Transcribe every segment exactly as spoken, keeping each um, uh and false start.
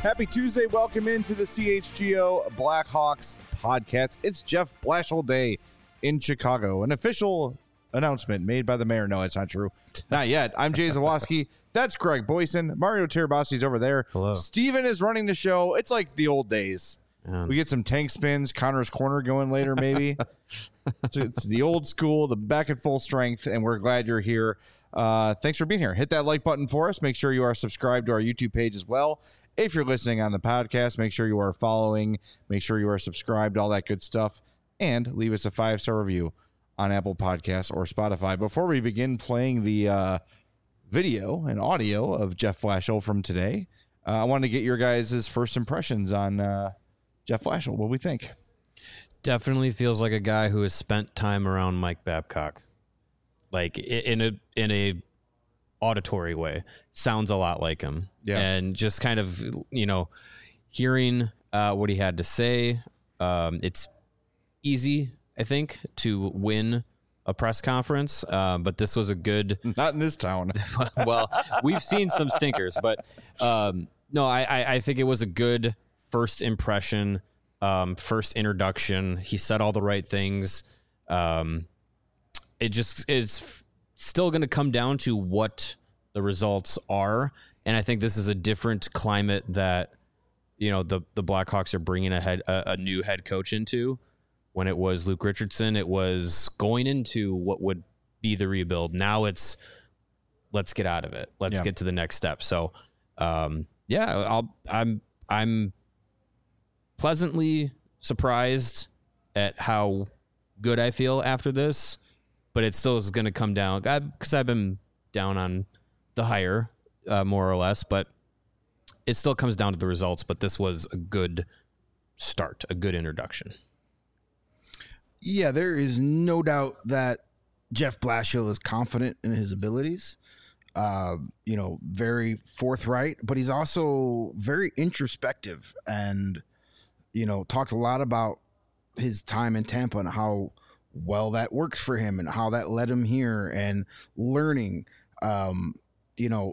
Happy Tuesday. Welcome into the C H G O Blackhawks podcast. It's Jeff Blashill Day in Chicago. An official announcement made by the mayor. No, it's not true. Not yet. I'm Jay Zawoski. That's Greg Boyson. Mario Tirabasi's over there. Hello. Steven is running the show. It's like the old days. Um, we get some tank spins, Connor's Corner going later, maybe. it's, it's the old school, the back at full strength, and we're glad you're here. Uh, thanks for being here. Hit that like button for us. Make sure you are subscribed to our YouTube page as well. If you're listening on the podcast, make sure you are following, make sure you are subscribed, all that good stuff, and leave us a five-star review on Apple Podcasts or Spotify. Before we begin playing the uh, video and audio of Jeff Blashill from today, uh, I wanted to get your guys' first impressions on uh, Jeff Blashill. What do we think? Definitely feels like a guy who has spent time around Mike Babcock, like in a in a auditory way. Sounds a lot like him. Yeah. And just kind of, you know, hearing uh, what he had to say. Um, it's easy, I think, to win a press conference, uh, but this was a good... Not in this town. Well, we've seen some stinkers, but um, no, I, I, I think it was a good first impression, um, first introduction. He said all the right things. Um, it just is still going to come down to what the results are. And I think this is a different climate that, you know, the, the Blackhawks are bringing a, head, a, a new head coach into. When it was Luke Richardson, it was going into what would be the rebuild. Now it's, let's get out of it. Let's yeah. get to the next step. So, um, yeah, I'll, I'm, I'm pleasantly surprised at how good I feel after this, but it still is going to come down because I've been down on the hire uh, more or less, but it still comes down to the results. But this was a good start, a good introduction. Yeah, there is no doubt that Jeff Blashill is confident in his abilities. Uh, you know, very forthright, but he's also very introspective and, you know, talked a lot about his time in Tampa and how well that worked for him and how that led him here and learning, um, you know,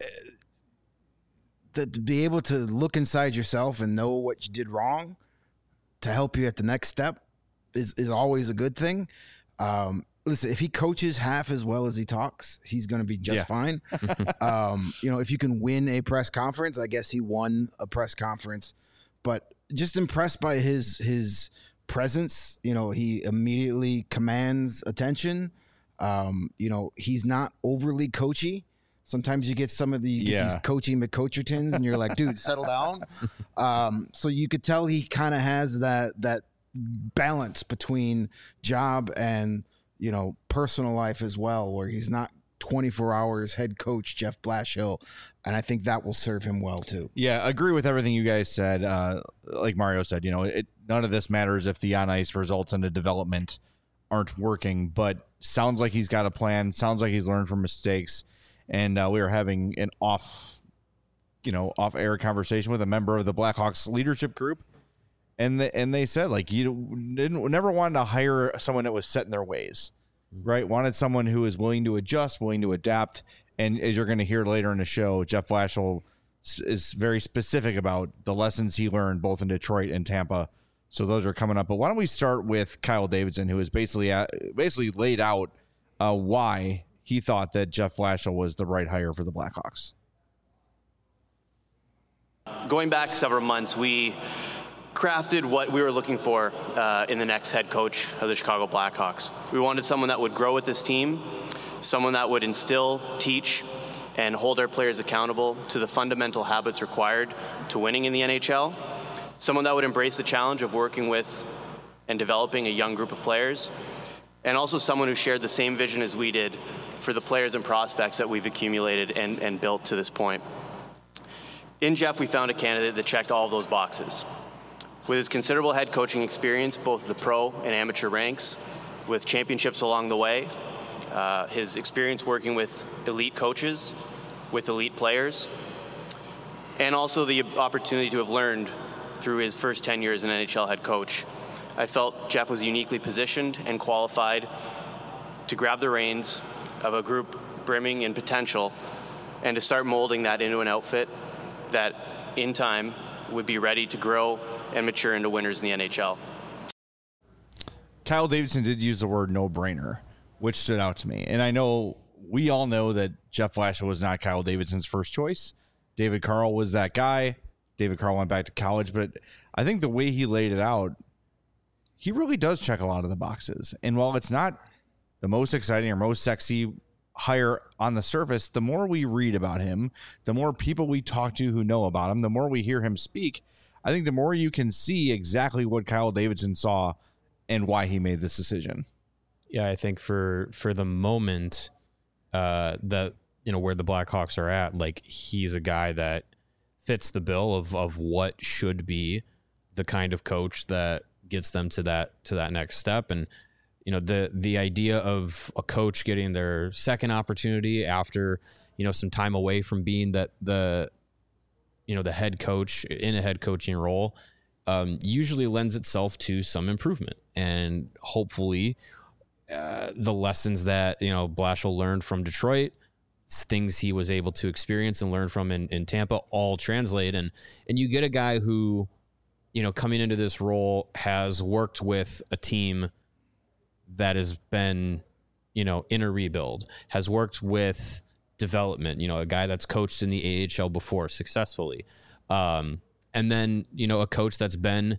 to, to be able to look inside yourself and know what you did wrong to help you at the next step is, is always a good thing. Um, listen, if he coaches half as well as he talks, he's going to be just yeah. fine. um, you know, if you can win a press conference, I guess he won a press conference, but just impressed by his, his presence. You know, he immediately commands attention. Um, you know, he's not overly coachy. Sometimes you get some of the you get yeah. these coachy McCoachertons and you're like, dude, settle down. Um, so you could tell he kind of has that, that balance between job and, you know, personal life as well, where he's not twenty-four hours head coach Jeff Blashill. And I think that will serve him well too. Yeah. Agree with everything you guys said. Uh, like Mario said, you know, it, none of this matters if the on ice results in the development aren't working, but sounds like he's got a plan. Sounds like he's learned from mistakes. And uh, we were having an off, you know, off air conversation with a member of the Blackhawks leadership group. And the, and they said, like, you didn't never wanted to hire someone that was set in their ways, right? Wanted someone who is willing to adjust, willing to adapt. And as you're going to hear later in the show, Jeff Blashill is very specific about the lessons he learned both in Detroit and Tampa. So those are coming up. But why don't we start with Kyle Davidson, who has basically uh, basically laid out uh, why he thought that Jeff Blashill was the right hire for the Blackhawks. Going back several months, we crafted what we were looking for uh, in the next head coach of the Chicago Blackhawks. We wanted someone that would grow with this team, someone that would instill, teach, and hold our players accountable to the fundamental habits required to winning in the N H L, someone that would embrace the challenge of working with and developing a young group of players, and also someone who shared the same vision as we did for the players and prospects that we've accumulated and, and built to this point. In Jeff, we found a candidate that checked all of those boxes. With his considerable head coaching experience, both the pro and amateur ranks, with championships along the way, uh, his experience working with elite coaches, with elite players, and also the opportunity to have learned through his first ten years as an N H L head coach, I felt Jeff was uniquely positioned and qualified to grab the reins of a group brimming in potential and to start molding that into an outfit that, in time, would be ready to grow and mature into winners in the N H L. Kyle Davidson did use the word no-brainer, which stood out to me. And I know we all know that Jeff Blashill was not Kyle Davidson's first choice. David Carl was that guy. David Carl went back to college. But I think the way he laid it out, he really does check a lot of the boxes. And while it's not the most exciting or most sexy hire on the surface, the more we read about him, the more people we talk to who know about him, the more we hear him speak, I think the more you can see exactly what Kyle Davidson saw and why he made this decision. Yeah, I think for for the moment, uh, that you know where the Blackhawks are at, like he's a guy that fits the bill of of what should be the kind of coach that gets them to that to that next step. And you know the the idea of a coach getting their second opportunity after you know some time away from being that the you know the head coach in a head coaching role. Um, usually lends itself to some improvement, and hopefully uh, the lessons that, you know, Blashill learned from Detroit, things he was able to experience and learn from in, in Tampa all translate. And, and you get a guy who, you know, coming into this role has worked with a team that has been, you know, in a rebuild, has worked with development, you know, a guy that's coached in the A H L before successfully. Um, And then, you know, a coach that's been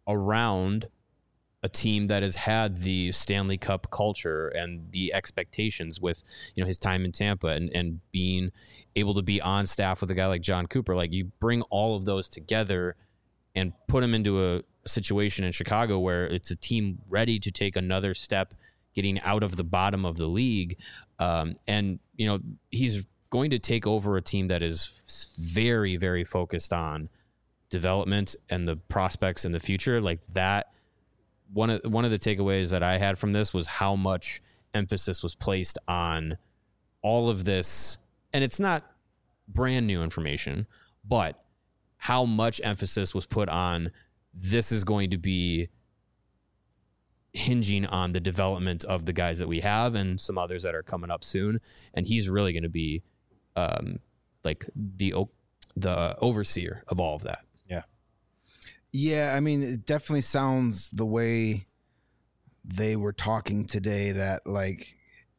around a team that has had the Stanley Cup culture and the expectations with, you know, his time in Tampa and, and being able to be on staff with a guy like John Cooper. Like, you bring all of those together and put them into a, a situation in Chicago where it's a team ready to take another step, getting out of the bottom of the league. Um, and, you know, he's going to take over a team that is very, very focused on development and the prospects in the future. Like that, one of one of the takeaways that I had from this was how much emphasis was placed on all of this. And it's not brand new information, but how much emphasis was put on this is going to be hinging on the development of the guys that we have and some others that are coming up soon. And he's really going to be um, like the the overseer of all of that. Yeah, I mean, it definitely sounds the way they were talking today that, like,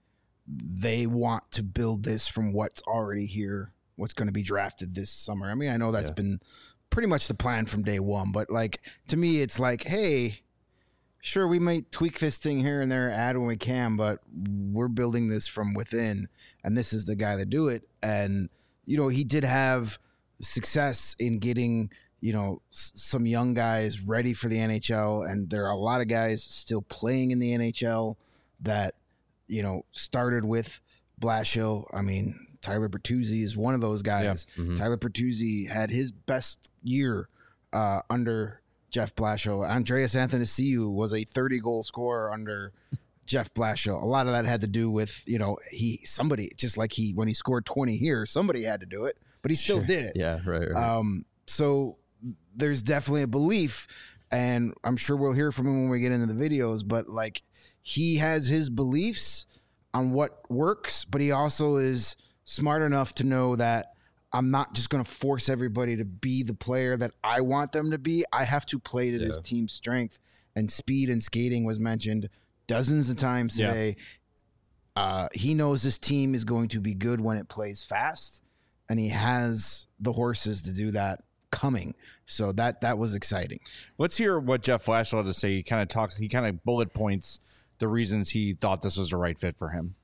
they want to build this from what's already here, what's going to be drafted this summer. I mean, I know that's yeah. been pretty much the plan from day one, but, like, to me, it's like, hey, sure, we might tweak this thing here and there, add when we can, but we're building this from within, and this is the guy to do it. And, you know, he did have success in getting – you know, s- some young guys ready for the N H L, and there are a lot of guys still playing in the N H L that, you know, started with Blashill. I mean, Tyler Bertuzzi is one of those guys. Yeah. Mm-hmm. Tyler Bertuzzi had his best year uh, under Jeff Blashill. Andreas Athanasiou was a thirty-goal scorer under Jeff Blashill. A lot of that had to do with, you know, he somebody, just like he, when he scored twenty here, somebody had to do it, but he still Sure. did it. Yeah, right, right. Um, so there's definitely a belief, and I'm sure we'll hear from him when we get into the videos, but like he has his beliefs on what works, but he also is smart enough to know that I'm not just going to force everybody to be the player that I want them to be. I have to play to yeah. this team's strength, and speed and skating was mentioned dozens of times today. Yeah. Uh, he knows this team is going to be good when it plays fast, and he has the horses to do that coming. So that that was exciting. Let's hear what Jeff Blashill had to say. He kind of talked, he kind of bullet points the reasons he thought this was the right fit for him.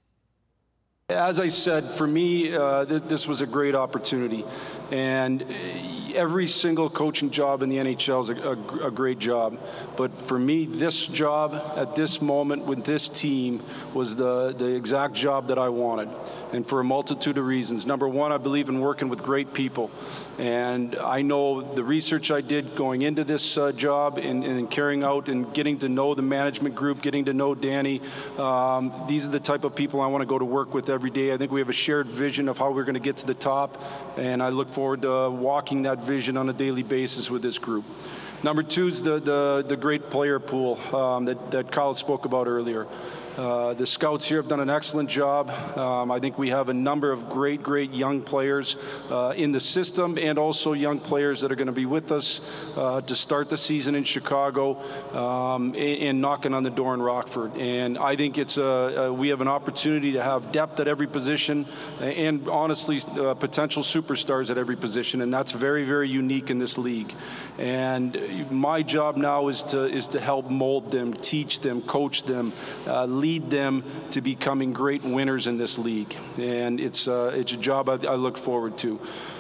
As I said, for me, uh, th- this was a great opportunity. And every single coaching job in the N H L is a, a, a great job. But for me, this job at this moment with this team was the, the exact job that I wanted. And for a multitude of reasons. Number one, I believe in working with great people. And I know the research I did going into this uh, job and, and carrying out and getting to know the management group, getting to know Danny. Um, these are the type of people I want to go to work with every day. I think we have a shared vision of how we're going to get to the top. And I look forward to uh, walking that vision on a daily basis with this group. Number two is the, the, the great player pool um, that, that Kyle spoke about earlier. Uh, the scouts here have done an excellent job. Um, I think we have a number of great, great young players uh, in the system, and also young players that are going to be with us uh, to start the season in Chicago um, and, and knocking on the door in Rockford. And I think it's a, a we have an opportunity to have depth at every position, and honestly, uh, potential superstars at every position, and that's very, very unique in this league. And my job now is to is to help mold them, teach them, coach them, uh, lead them to becoming great winners in this league. And it's uh, it's a job I, I look forward to.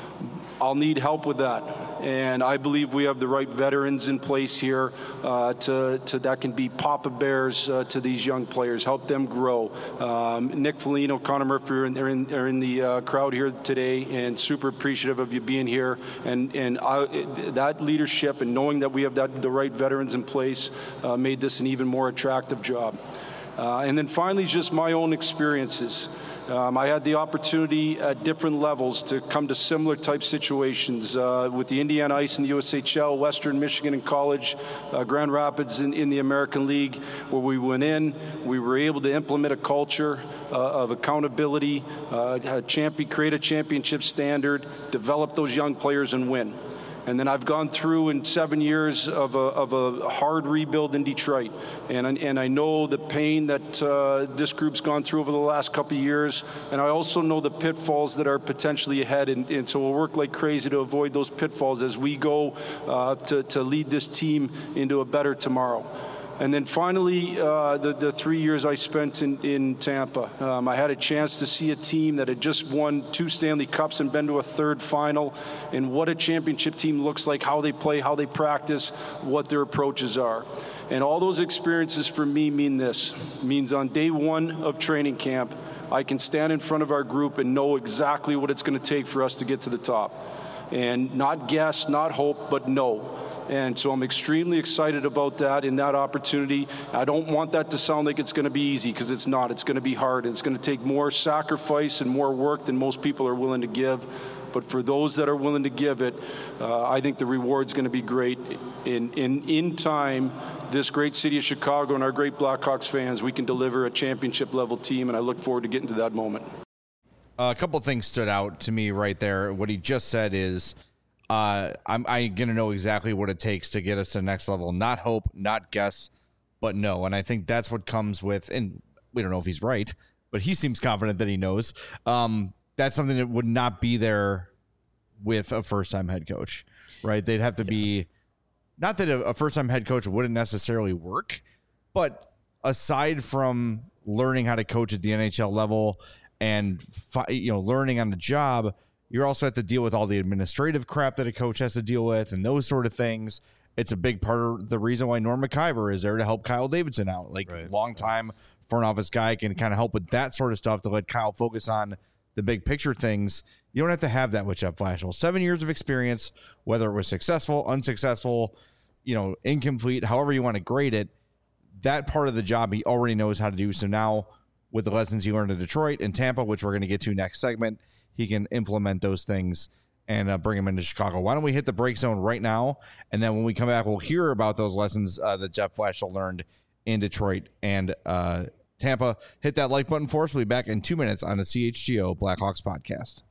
I'll need help with that, and I believe we have the right veterans in place here uh, to, to that can be Papa Bears uh, to these young players, help them grow. Um, Nick Foligno, Connor Murphy are in, are in, are in the uh, crowd here today, and super appreciative of you being here. And and I, that leadership and knowing that we have that the right veterans in place uh, made this an even more attractive job. Uh, and then finally, just my own experiences. Um, I had the opportunity at different levels to come to similar type situations uh, with the Indiana Ice in the U S H L, Western Michigan in college, uh, Grand Rapids in, in the American League, where we went in, we were able to implement a culture uh, of accountability, uh, champion, create a championship standard, develop those young players, and win. And then I've gone through in seven years of a, of a hard rebuild in Detroit. And, and I know the pain that uh, this group's gone through over the last couple of years. And I also know the pitfalls that are potentially ahead. And, and so we'll work like crazy to avoid those pitfalls as we go uh, to, to lead this team into a better tomorrow. And then finally, uh, the, the three years I spent in, in Tampa. Um, I had a chance to see a team that had just won two Stanley Cups and been to a third final, and what a championship team looks like, how they play, how they practice, what their approaches are. And all those experiences for me mean this. It means on day one of training camp, I can stand in front of our group and know exactly what it's going to take for us to get to the top. And not guess, not hope, but know. And so I'm extremely excited about that and that opportunity. I don't want that to sound like it's going to be easy, because it's not. It's going to be hard. It's going to take more sacrifice and more work than most people are willing to give. But for those that are willing to give it, uh, I think the reward's going to be great. In, in, in time, this great city of Chicago and our great Blackhawks fans, we can deliver a championship-level team, and I look forward to getting to that moment. Uh, a couple things stood out to me right there. What he just said is, Uh, I'm, I'm going to know exactly what it takes to get us to the next level. Not hope, not guess, but know. And I think that's what comes with, and we don't know if he's right, but he seems confident that he knows. Um, that's something that would not be there with a first-time head coach, right? They'd have to be, not that a, a first-time head coach wouldn't necessarily work, but aside from learning how to coach at the N H L level and fi- you know learning on the job, you also have to deal with all the administrative crap that a coach has to deal with and those sort of things. It's a big part of the reason why Norm McIver is there to help Kyle Davidson out. Like, right. Long-time front office guy can kind of help with that sort of stuff to let Kyle focus on the big picture things. You don't have to have that with Jeff Blashill. Seven years of experience, whether it was successful, unsuccessful, you know, incomplete, however you want to grade it, that part of the job he already knows how to do. So now with the lessons he learned in Detroit and Tampa, which we're going to get to next segment, he can implement those things and uh, bring them into Chicago. Why don't we hit the break zone right now? And then when we come back, we'll hear about those lessons uh, that Jeff Blashill learned in Detroit and uh, Tampa. Hit that like button for us. We'll be back in two minutes on the C H G O Blackhawks podcast.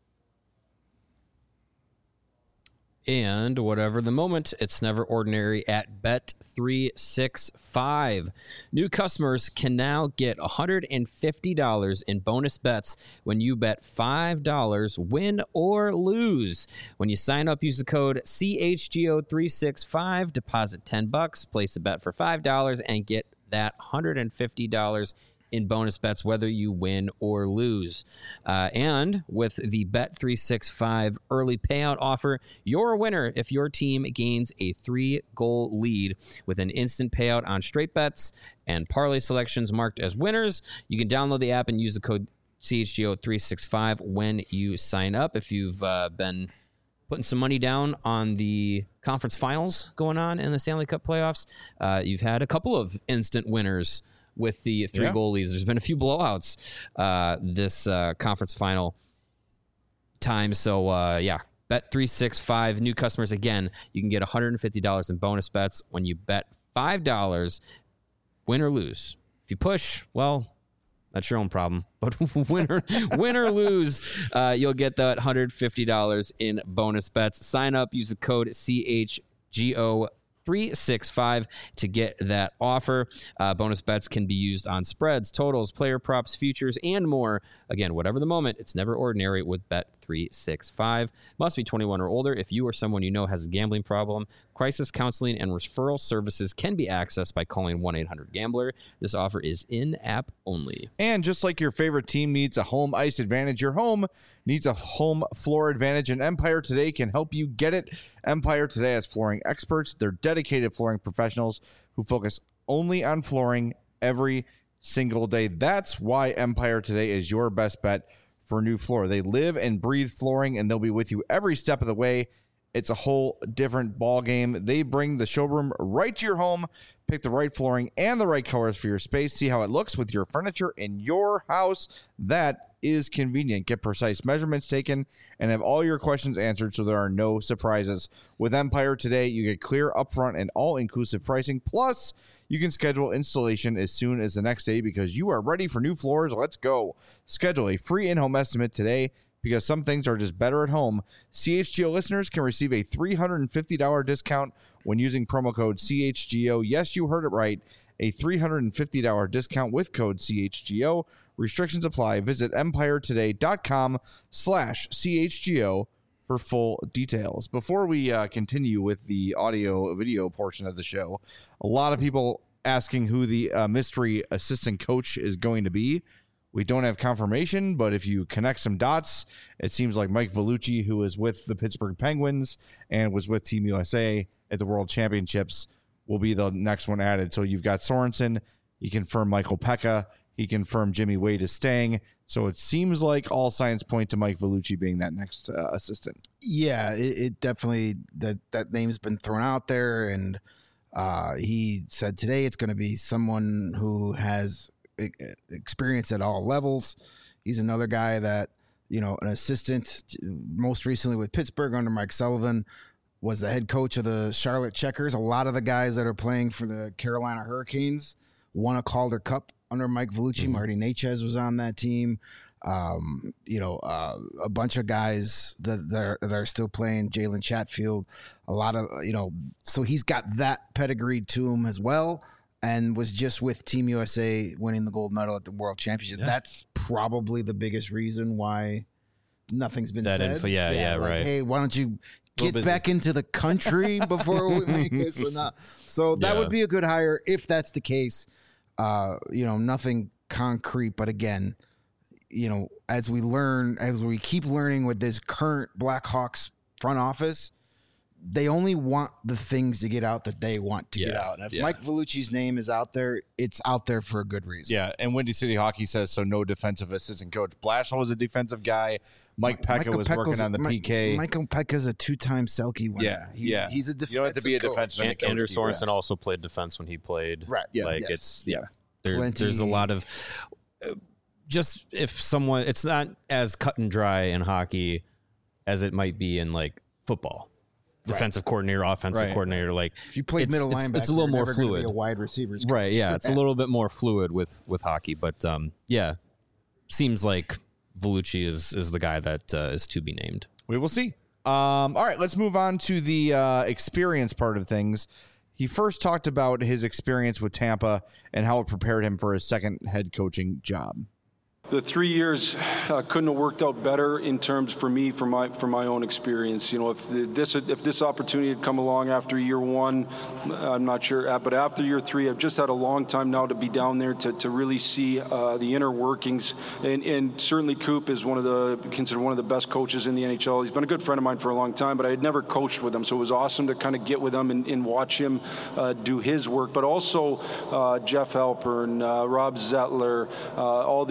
And whatever the moment, it's never ordinary at Bet three sixty-five. New customers can now get one hundred fifty dollars in bonus bets when you bet five dollars, win or lose. When you sign up, use the code C H G O three sixty-five, deposit ten bucks, place a bet for five dollars, and get that one hundred fifty dollars in bonus bets, whether you win or lose. Uh, and with the Bet three sixty-five early payout offer, you're a winner if your team gains a three-goal lead with an instant payout on straight bets and parlay selections marked as winners. You can download the app and use the code C H G O three sixty-five when you sign up. If you've uh, been putting some money down on the conference finals going on in the Stanley Cup playoffs, uh, you've had a couple of instant winners with the three yeah. goalies. There's been a few blowouts uh, this uh, conference final time. So, uh, yeah, Bet three sixty-five. New customers, again, you can get one hundred fifty dollars in bonus bets when you bet five dollars, win or lose. If you push, well, that's your own problem. But win or, win or lose, uh, you'll get that one hundred fifty dollars in bonus bets. Sign up, use the code C H G O three six five to get that offer. Uh, bonus bets can be used on spreads, totals, player props, futures, and more. Again, whatever the moment, it's never ordinary with Bet three sixty-five. Must be twenty-one or older. If you or someone you know has a gambling problem, crisis counseling and referral services can be accessed by calling one eight hundred gambler. This offer is in-app only. And just like your favorite team needs a home ice advantage, your home needs a home floor advantage, and Empire Today can help you get it. Empire Today has flooring experts. They're dedicated flooring professionals who focus only on flooring every single day. That's why Empire Today is your best bet for a new floor. They live and breathe flooring, and they'll be with you every step of the way. It's a whole different ball game. They bring the showroom right to your home. Pick the right flooring and the right colors for your space. See how it looks with your furniture in your house. That is convenient. Get precise measurements taken and have all your questions answered so there are no surprises. With Empire Today, you get clear, upfront, and all-inclusive pricing. Plus, you can schedule installation as soon as the next day because you are ready for new floors. Let's go. Schedule a free in-home estimate today because some things are just better at home. C H G O listeners can receive a three hundred fifty dollars discount when using promo code C H G O. Yes, you heard it right. A three hundred fifty dollars discount with code C H G O. Restrictions apply. Visit empiretoday.com slash CHGO for full details. Before we uh, continue with the audio video portion of the show, a lot of people asking who the uh, mystery assistant coach is going to be. We don't have confirmation, but if you connect some dots, it seems like Mike Vellucci, who is with the Pittsburgh Penguins and was with Team U S A at the World Championships, will be the next one added. So you've got Sorensen. He confirmed Michael Pekka. He confirmed Jimmy Wade is staying. So it seems like all signs point to Mike Vellucci being that next uh, assistant. Yeah, it, it definitely, that, that name's been thrown out there. And uh, he said today it's going to be someone who has experience at all levels. He's another guy that, you know, an assistant, most recently with Pittsburgh under Mike Sullivan, was the head coach of the Charlotte Checkers. A lot of the guys that are playing for the Carolina Hurricanes won a Calder Cup under Mike Vellucci. Mm-hmm. Marty Necas was on that team. Um, you know, uh, a bunch of guys that, that, are, that are still playing, Jalen Chatfield, a lot of, you know, so he's got that pedigree to him as well. And was just with Team U S A winning the gold medal at the World Championship. Yeah. That's probably the biggest reason why nothing's been that said. Info, yeah, yeah, yeah like, right. Hey, why don't you get back into the country before we make this enough? So that yeah. would be a good hire if that's the case. Uh, you know, nothing concrete, but again, you know, as we learn, as we keep learning with this current Blackhawks front office, they only want the things to get out that they want to yeah, get out. And if yeah. Mike Vellucci's name is out there, it's out there for a good reason. Yeah, and Windy City Hockey says so. No defensive assistant coach. Blashill was a defensive guy. Mike Pekka Michael was Pekka's, working on the Mike, P K. Michael Pekka's a two-time Selke winner. Yeah, he's, yeah. He's a defensive You don't have to be a coach. defenseman. And, Andrew Sorensen also played defense when he played. Right. Yeah. Like yes. it's yeah. There, there's a lot of uh, just if someone. It's not as cut and dry in hockey as it might be in like football. Defensive right. coordinator, offensive right. coordinator. Like if you played middle it's, linebacker, it's a little more never fluid. Be a wide receivers, coach. Right? Yeah, it's a little bit more fluid with with hockey, but um, yeah, seems like Vellucci is is the guy that uh, is to be named. We will see. Um, all right, let's move on to the uh, experience part of things. He first talked about his experience with Tampa and how it prepared him for his second head coaching job. The three years uh, couldn't have worked out better in terms for me, for my for my own experience. You know, if the, this if this opportunity had come along after year one, I'm not sure. But after year three, I've just had a long time now to be down there to, to really see uh, the inner workings. And, and certainly Coop is one of the considered one of the best coaches in the N H L. He's been a good friend of mine for a long time, but I had never coached with him, so it was awesome to kind of get with him and, and watch him uh, do his work. But also uh, Jeff Halpern, uh, Rob Zettler, uh, all the all the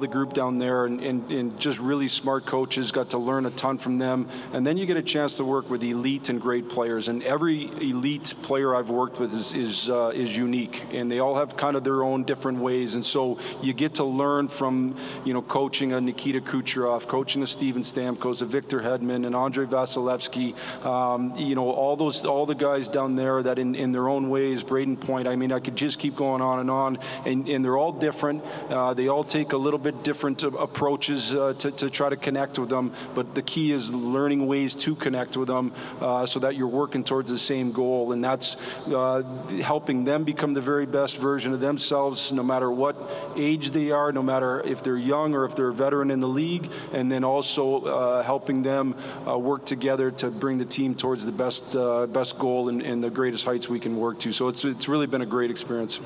the group down there, and, and, and just really smart coaches, got to learn a ton from them. And then you get a chance to work with elite and great players. And every elite player I've worked with is is, uh, is unique, and they all have kind of their own different ways. And so you get to learn from, you know, coaching a Nikita Kucherov, coaching a Steven Stamkos, a Victor Hedman, and Andre Vasilevsky. Um, you know, all those, all the guys down there that in, in their own ways, Braden Point, I mean, I could just keep going on and on, and, and they're all different. Uh, they all take a little bit different uh, approaches uh, to, to try to connect with them, but the key is learning ways to connect with them uh, so that you're working towards the same goal, and that's uh, helping them become the very best version of themselves, no matter what age they are, no matter if they're young or if they're a veteran in the league, and then also uh, helping them uh, work together to bring the team towards the best uh, best goal and, and the greatest heights we can work to. So it's it's really been a great experience.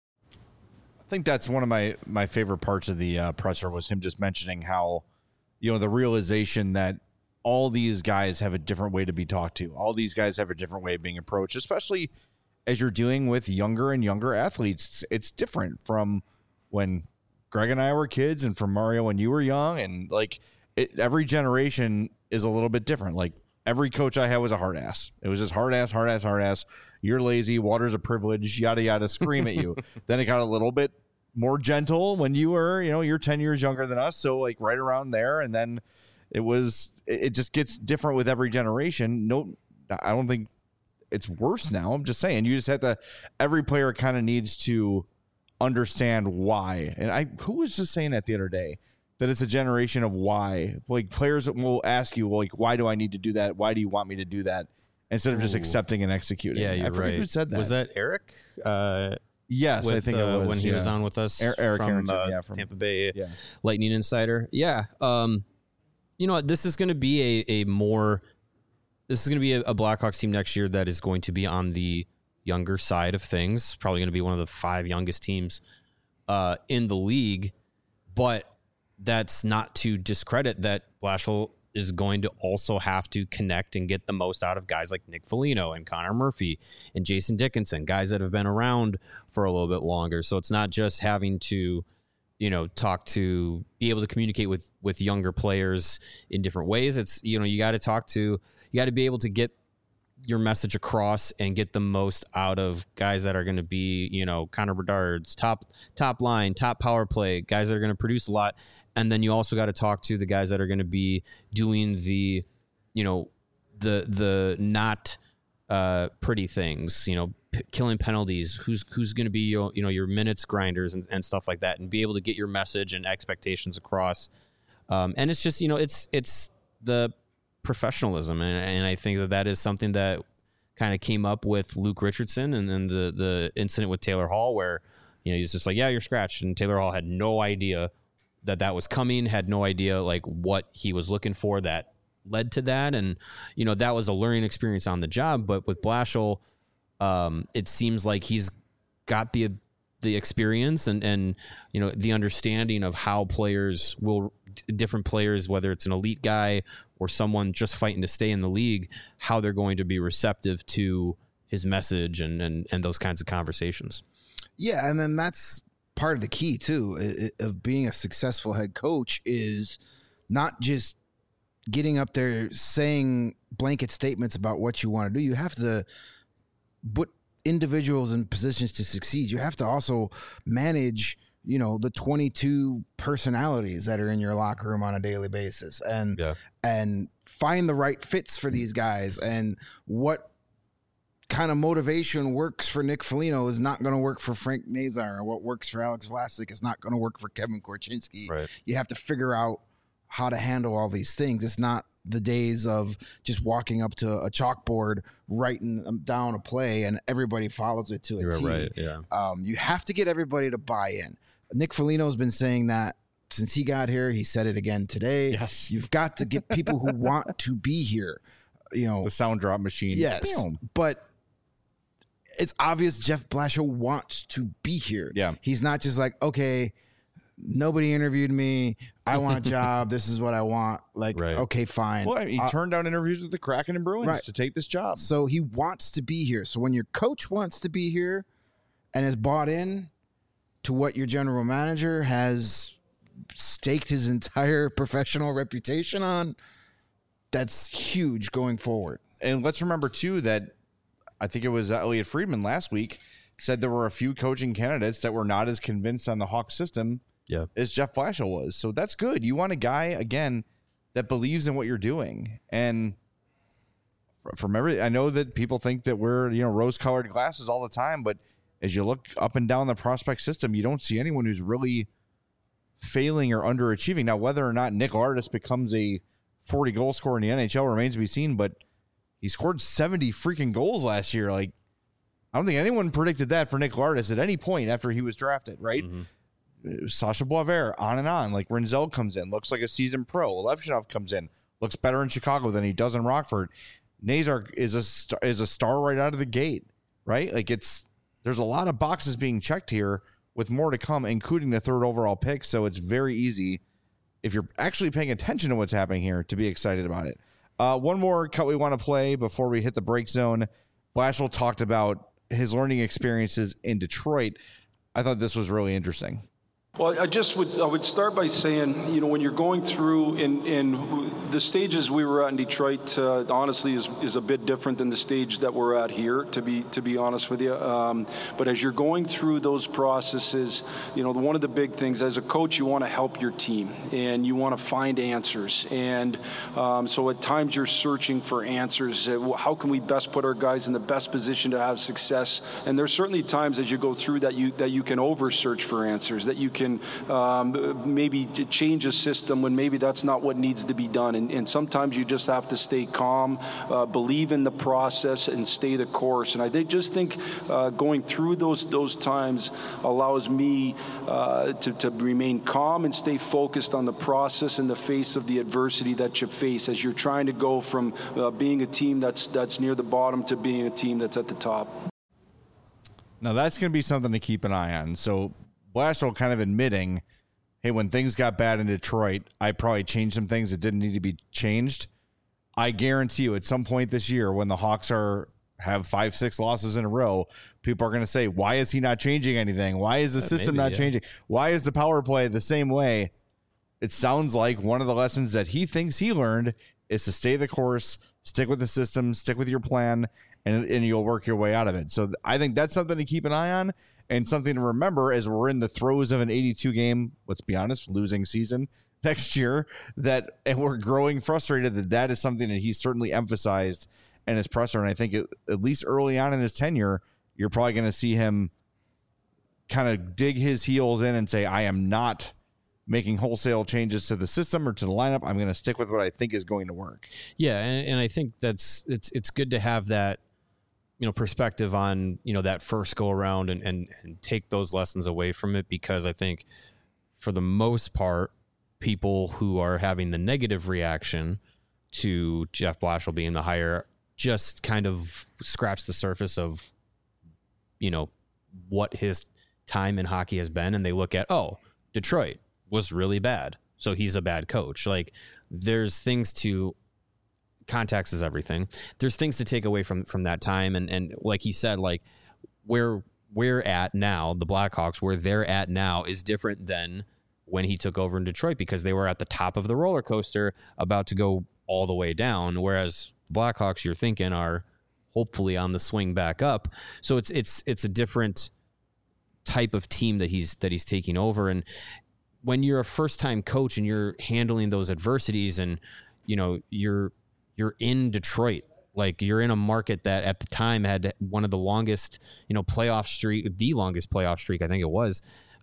I think that's one of my, my favorite parts of the uh, presser was him just mentioning how, you know, the realization that all these guys have a different way to be talked to. All these guys have a different way of being approached, especially as you're dealing with younger and younger athletes. It's, it's different from when Greg and I were kids and from Mario when you were young. And like it, every generation is a little bit different. Like every coach I had was a hard ass. It was just hard ass, hard ass, hard ass. You're lazy. Water's a privilege, yada, yada, scream at you. Then it got a little bit more gentle when you were, you know, you're ten years younger than us. So like right around there. And then it was, it just gets different with every generation. No, I don't think it's worse now. I'm just saying you just have to, every player kind of needs to understand why. And I, who was just saying that the other day, that it's a generation of why. Like players will ask you, well, like, why do I need to do that? Why do you want me to do that? Instead of just Ooh. accepting and executing. Yeah, you're I forget right. who said that. Was that Eric? Uh, yes, with, I think uh, it was. when he yeah. was on with us. Er- Eric from, Aronson, uh, yeah, from Tampa Bay yeah. Lightning Insider. Yeah. Um, you know what? This is going to be a, a more, this is going to be a, a Blackhawks team next year that is going to be on the younger side of things. Probably going to be one of the five youngest teams uh, in the league. But that's not to discredit that Blashill is going to also have to connect and get the most out of guys like Nick Foligno and Connor Murphy and Jason Dickinson, guys that have been around for a little bit longer. So it's not just having to, you know, talk to, be able to communicate with, with younger players in different ways. It's, you know, you got to talk to, you got to be able to get your message across and get the most out of guys that are going to be, you know, Connor Bedard's top, top line, top power play, guys that are going to produce a lot. And then you also got to talk to the guys that are going to be doing the, you know, the, the not uh, pretty things, you know, p- killing penalties, who's, who's going to be, your, you know, your minutes grinders and, and stuff like that, and be able to get your message and expectations across. Um, and it's just, you know, it's, it's the professionalism. And, and I think that that is something that kind of came up with Luke Richardson and then the, the incident with Taylor Hall, where, you know, he's just like, yeah, you're scratched. And Taylor Hall had no idea that that was coming, had no idea like what he was looking for that led to that. And, you know, that was a learning experience on the job. But with Blashill, um, it seems like he's got the, the experience and, and, you know, the understanding of how players will, different players, whether it's an elite guy or someone just fighting to stay in the league, how they're going to be receptive to his message and, and, and those kinds of conversations. Yeah. And then that's part of the key too of being a successful head coach is not just getting up there saying blanket statements about what you want to do. You have to put individuals in positions to succeed. You have to also manage, you know, the twenty-two personalities that are in your locker room on a daily basis, and yeah. and find the right fits for these guys, and what kind of motivation works for Nick Foligno is not going to work for Frank Nazar, or what works for Alex Vlasic is not going to work for Kevin Korchinski. Right. You have to figure out how to handle all these things. It's not the days of just walking up to a chalkboard, writing down a play, and everybody follows it to a You're T. right. Yeah. Um, you have to get everybody to buy in. Nick Foligno has been saying that since he got here. He said it again today. Yes. You've got to get people who want to be here. You know, The sound drop machine. yes, Bam. but it's obvious Jeff Blashill wants to be here. Yeah. He's not just like, okay, nobody interviewed me. I want a job. This is what I want. Like, Right. okay, fine. Well, he Uh, turned down interviews with the Kraken and Bruins Right. to take this job. So he wants to be here. So when your coach wants to be here and is bought in to what your general manager has staked his entire professional reputation on, that's huge going forward. And let's remember, too, that I think it was Elliot Friedman last week said there were a few coaching candidates that were not as convinced on the Hawks system yeah. as Jeff Blashill was. So that's good. You want a guy, again, that believes in what you're doing. And from every, I know that people think that we're, you know, rose-colored glasses all the time, but as you look up and down the prospect system, you don't see anyone who's really failing or underachieving. Now, whether or not Nick Lardis becomes a forty goal scorer in the N H L remains to be seen, but he scored seventy freaking goals last year. Like, I don't think anyone predicted that for Nick Lardis at any point after he was drafted, right? Mm-hmm. Sasha Boisvert, on and on. Like, Renzel comes in, looks like a seasoned pro. Levchinov comes in, looks better in Chicago than he does in Rockford. Nazar is a star, is a star right out of the gate, right? Like, it's there's a lot of boxes being checked here with more to come, including the third overall pick. So it's very easy, if you're actually paying attention to what's happening here, to be excited about it. Uh, one more cut we want to play before we hit the break zone. Blashill talked about his learning experiences in Detroit. I thought this was really interesting. Well, I just would I would start by saying, you know, when you're going through in, in the stages we were at in Detroit, uh, honestly, is, is a bit different than the stage that we're at here, to be to be honest with you. Um, but as you're going through those processes, you know, one of the big things as a coach, you want to help your team and you want to find answers. And um, so at times you're searching for answers. How can we best put our guys in the best position to have success? And there's certainly times as you go through that you that you can over search for answers, that you can Can um, maybe change a system when maybe that's not what needs to be done. And, and sometimes you just have to stay calm, uh, believe in the process, and stay the course. And I think, just think uh, going through those those times allows me uh, to, to remain calm and stay focused on the process in the face of the adversity that you face as you're trying to go from uh, being a team that's that's near the bottom to being a team that's at the top. Now, that's going to be something to keep an eye on. So Blashill kind of admitting, hey, when things got bad in Detroit, I probably changed some things that didn't need to be changed. I guarantee you at some point this year when the Hawks are have five, six losses in a row, people are going to say, why is he not changing anything? Why is the uh, system maybe, not yeah. changing? Why is the power play the same way? It sounds like one of the lessons that he thinks he learned is to stay the course, stick with the system, stick with your plan, and, and you'll work your way out of it. So I think that's something to keep an eye on. And something to remember as we're in the throes of an eighty-two game, let's be honest, losing season next year, that and we're growing frustrated, that that is something that he's certainly emphasized in his presser. And I think it, at least early on in his tenure, you're probably going to see him kind of dig his heels in and say, I am not making wholesale changes to the system or to the lineup. I'm going to stick with what I think is going to work. Yeah, and, and I think that's it's it's good to have that, you know, perspective on, you know, that first go around and, and, and take those lessons away from it, because I think for the most part, people who are having the negative reaction to Jeff Blashill being the hire just kind of scratch the surface of, you know, what his time in hockey has been. And they look at, oh, Detroit was really bad, so he's a bad coach. Like, there's things to context is everything. There's things to take away from from that time, and and like he said, like where we're at now, the Blackhawks, where they're at now is different than when he took over in Detroit, because they were at the top of the roller coaster about to go all the way down, whereas Blackhawks, you're thinking, are hopefully on the swing back up. So it's it's it's a different type of team that he's that he's taking over. And when you're a first time coach and you're handling those adversities, and you know you're You're in Detroit, like you're in a market that at the time had one of the longest, you know, playoff streak, the longest playoff streak, I think it was,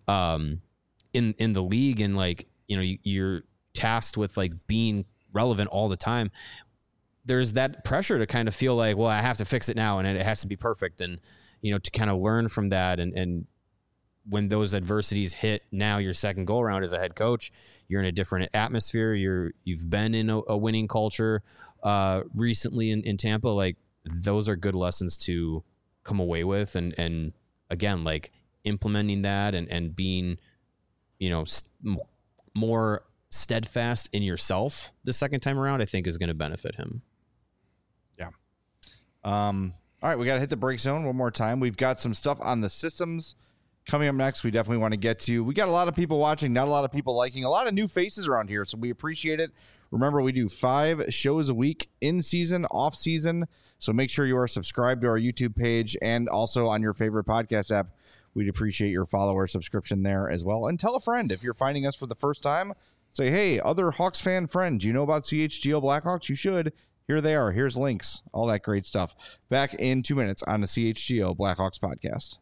um, in in the league, and like, you know, you, you're tasked with like being relevant all the time. There's that pressure to kind of feel like, well, I have to fix it now, and it has to be perfect, and you know, to kind of learn from that, and and when those adversities hit, now your second go around as a head coach, you're in a different atmosphere. You're, you've been in a, a winning culture uh, recently in, in Tampa. Like, those are good lessons to come away with. And, and again, like implementing that and, and being, you know, st- more steadfast in yourself the second time around, I think is going to benefit him. Yeah. Um, all right. We got to hit the break zone one more time. We've got some stuff on the systems Coming up next, we definitely want to get to, we got a lot of people watching, not a lot of people liking, a lot of new faces around here, so we appreciate it. Remember, we do five shows a week, in season, off season, so make sure you are subscribed to our YouTube page and also on your favorite podcast app. We'd appreciate your follower subscription there as well. And tell a friend if you're finding us for the first time. Say, hey, other Hawks fan friends, you know about C H G O Blackhawks? You should. Here they are. Here's links. All that great stuff. Back in two minutes on the C H G O Blackhawks podcast.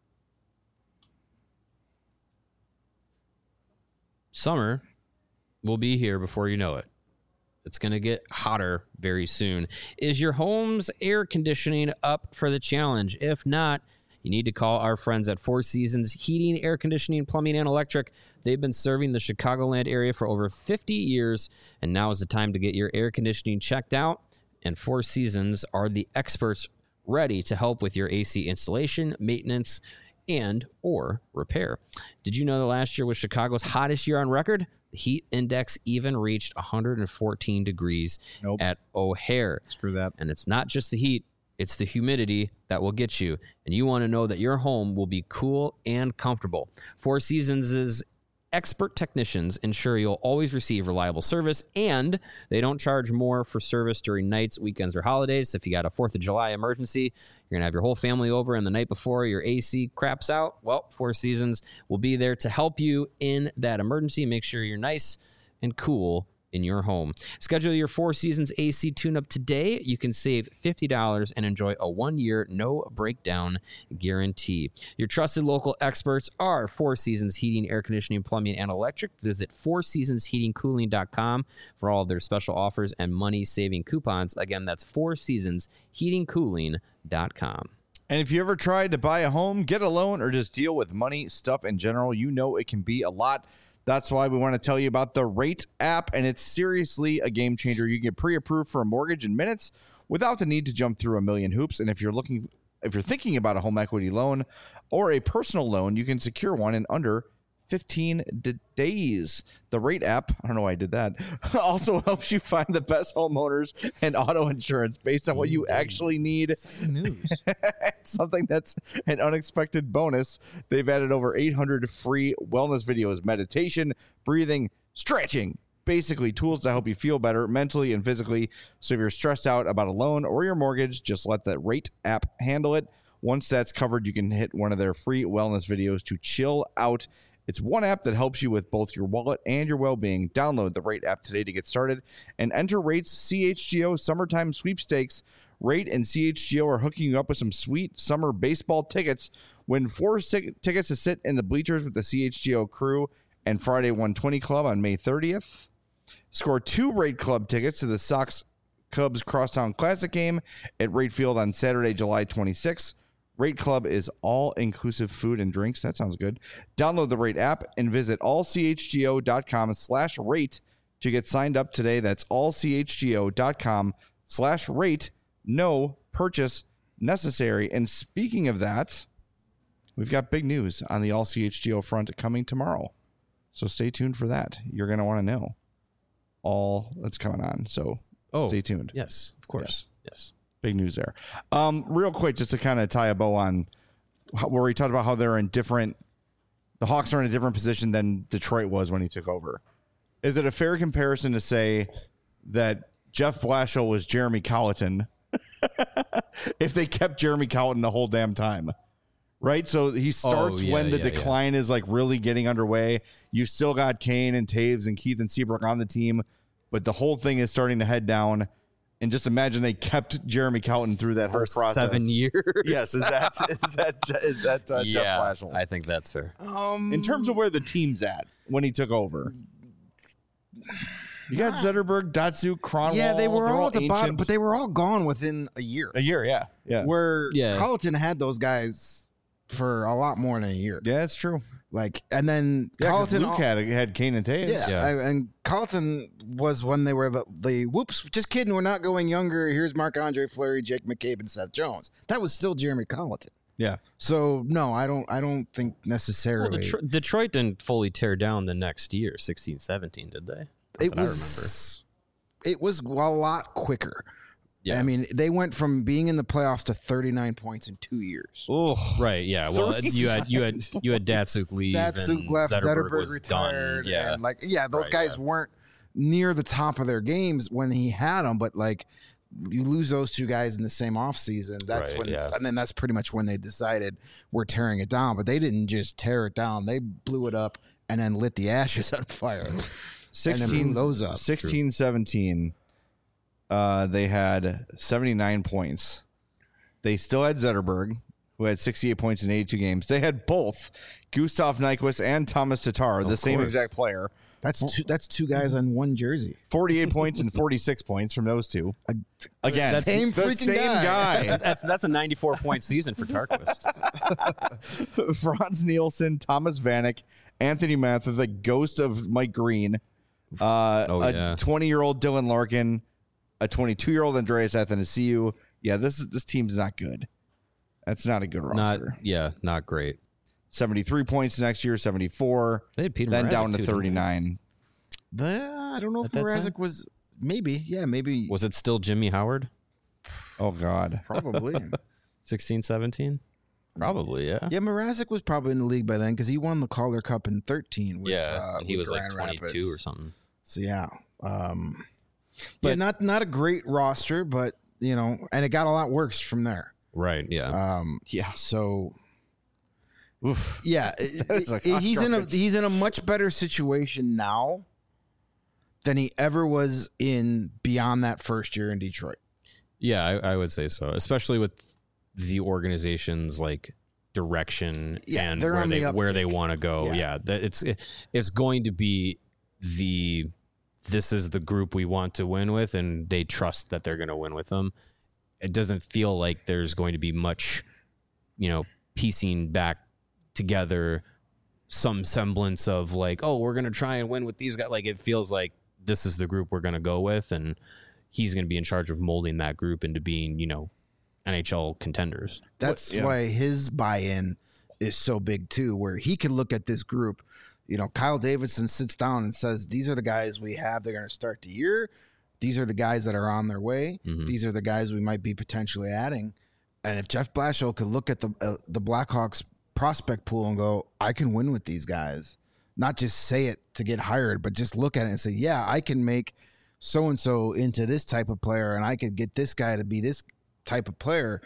Summer will be here before you know it. It's going to get hotter very soon. Is your home's air conditioning up for the challenge? If not, you need to call our friends at Four Seasons Heating, Air Conditioning, Plumbing, and Electric. They've been serving the Chicagoland area for over fifty years, and now is the time to get your air conditioning checked out. And Four Seasons are the experts ready to help with your A C installation, maintenance, and or repair. Did you know that last year was Chicago's hottest year on record? The heat index even reached one hundred fourteen degrees Nope. at O'Hare. Screw that. And it's not just the heat, it's the humidity that will get you. And you want to know that your home will be cool and comfortable. Four Seasons' expert technicians ensure you'll always receive reliable service, and they don't charge more for service during nights, weekends, or holidays. So if you got a fourth of July emergency, you're going to have your whole family over, and the night before your A C craps out, well, Four Seasons will be there to help you in that emergency. Make sure you're nice and cool in your home. Schedule your Four Seasons A C tune-up today. You can save fifty dollars and enjoy a one-year no-breakdown guarantee. Your trusted local experts are Four Seasons Heating, Air Conditioning, Plumbing, and Electric. Visit four seasons heating cooling dot com for all of their special offers and money-saving coupons. Again, that's four seasons heating cooling dot com. And if you ever tried to buy a home, get a loan, or just deal with money stuff in general, you know it can be a lot. That's why we want to tell you about the Rate app, and it's seriously a game changer. You get pre-approved for a mortgage in minutes without the need to jump through a million hoops. And if you're looking, if you're thinking about a home equity loan or a personal loan, you can secure one in under fifteen days. The Rate app, I don't know why I did that, also helps you find the best homeowners and auto insurance based on what you actually need. News. Something that's an unexpected bonus. They've added over eight hundred free wellness videos, meditation, breathing, stretching, basically tools to help you feel better mentally and physically. So if you're stressed out about a loan or your mortgage, just let the Rate app handle it. Once that's covered, you can hit one of their free wellness videos to chill out. It's one app that helps you with both your wallet and your well-being. Download the Rate app today to get started and enter Rate's C H G O Summertime Sweepstakes. Rate and C H G O are hooking you up with some sweet summer baseball tickets. Win four sig- tickets to sit in the bleachers with the C H G O crew and Friday one twenty Club on May thirtieth. Score two Rate Club tickets to the Sox Cubs Crosstown Classic game at Rate Field on Saturday, July twenty-sixth. Rate Club is all-inclusive food and drinks. That sounds good. Download the Rate app and visit allchgo.com slash rate to get signed up today. That's allchgo.com slash rate. No purchase necessary. And speaking of that, we've got big news on the All C H G O front coming tomorrow. So stay tuned for that. You're going to want to know all that's coming on. So Oh, stay tuned. Yes, of course. Yes. Big news there. Um, real quick, just to kind of tie a bow on how, where we talked about how they're in different, the Hawks are in a different position than Detroit was when he took over. Is it a fair comparison to say that Jeff Blashill was Jeremy Colleton if they kept Jeremy Colleton the whole damn time? Right? So he starts Oh, yeah, when the yeah, decline is like really getting underway. You've still got Kane and Taves and Keith and Seabrook on the team, but the whole thing is starting to head down. And just imagine they kept Jeremy Colleton through that whole For process. seven years. Yes, is that is that is that uh, yeah, Jeff Blashill? I think that's fair. Um, In terms of where the team's at when he took over, you got Zetterberg, Datsuk, Cronwall. yeah, they were they're all at the bottom, ancient. but they were all gone within a year. a year. Yeah, yeah, Where Yeah. Colleton had those guys for a lot more than a year. yeah. That's true. Like, and then Yeah, 'cause Colleton Luke had had Kane and Taves. Yeah, Yeah. I- and Colleton was when they were the, the whoops, just kidding, we're not going younger. Here's Marc-Andre Fleury, Jake McCabe, and Seth Jones. That was still Jeremy Colleton. yeah. So no, I don't. I don't think Well, necessarily. Detroit, Detroit didn't fully tear down the next year, sixteen seventeen, did they? Not it that I was. It was a lot quicker. Yeah. I mean, they went from being in the playoffs to thirty-nine points in two years. Oh, Right. Yeah. Well, you had you had you had Datsuk leave. Datsuk and left, Zetterberg, Zetterberg was retired. done. Yeah. And like, yeah, those Right, guys yeah. weren't near the top of their games when he had them, but like, you lose those two guys in the same offseason. That's Right, when, yeah. and then that's pretty much when they decided we're tearing it down. But they didn't just tear it down; they blew it up and then lit the ashes on fire. sixteen, blew those up. sixteen seventeen, uh, they had seventy-nine points. They still had Zetterberg, who had sixty-eight points in eighty-two games. They had both Gustav Nyquist and Thomas Tatar, the same course. exact player. That's two. That's two guys on one jersey. forty-eight points and forty-six points from those two. Again, That's- Same the freaking same guy. guy. That's that's a ninety-four point season for Tarquist. Franz Nielsen, Thomas Vanek, Anthony Mather, the ghost of Mike Green, uh, Oh, a yeah. twenty-year-old Dylan Larkin, a twenty-two-year-old Andreas Athanasiou. Yeah, this is this team's not good. That's not a good Not roster. yeah, not great. seventy-three points next year, seventy-four, They had Peter then Mrazek down to too, didn't they? thirty-nine. The, I don't know if At that time? Mrazek was maybe. Yeah, maybe. Was it still Jimmy Howard? Oh, God. Probably. sixteen, seventeen? Probably, yeah. Yeah, Mrazek was probably in the league by then because he won the Calder Cup in thirteen. With, Yeah, uh, and he with was like Grand twenty-two Rapids. or something. So yeah, um, yeah, But- not not a great roster, but you know, and it got a lot worse from there. Right, yeah. Um, Yeah. so Oof. yeah, it- That's it- like he's in a garbage. he's in a much better situation now than he ever was in beyond that first year in Detroit. Yeah, I, I would say so, especially with the organization's like direction Yeah, and they're where on they the where they uptick. want to go. Yeah. Yeah, that it's it's going to be the this is the group we want to win with, and they trust that they're going to win with them. It doesn't feel like there's going to be much, you know, piecing back together some semblance of like, oh, we're going to try and win with these guys. Like it feels like this is the group we're going to go with, and he's going to be in charge of molding that group into being, you know, N H L contenders. That's yeah. why his buy-in is so big too, where he can look at this group. You know, Kyle Davidson sits down and says, "These are the guys we have. They're going to start the year. These are the guys that are on their way. Mhm. These are the guys we might be potentially adding." And if Jeff Blashill could look at the uh, the Blackhawks prospect pool and go, "I can win with these guys," not just say it to get hired, but just look at it and say, "Yeah, I can make so and so into this type of player, and I could get this guy to be this type of player."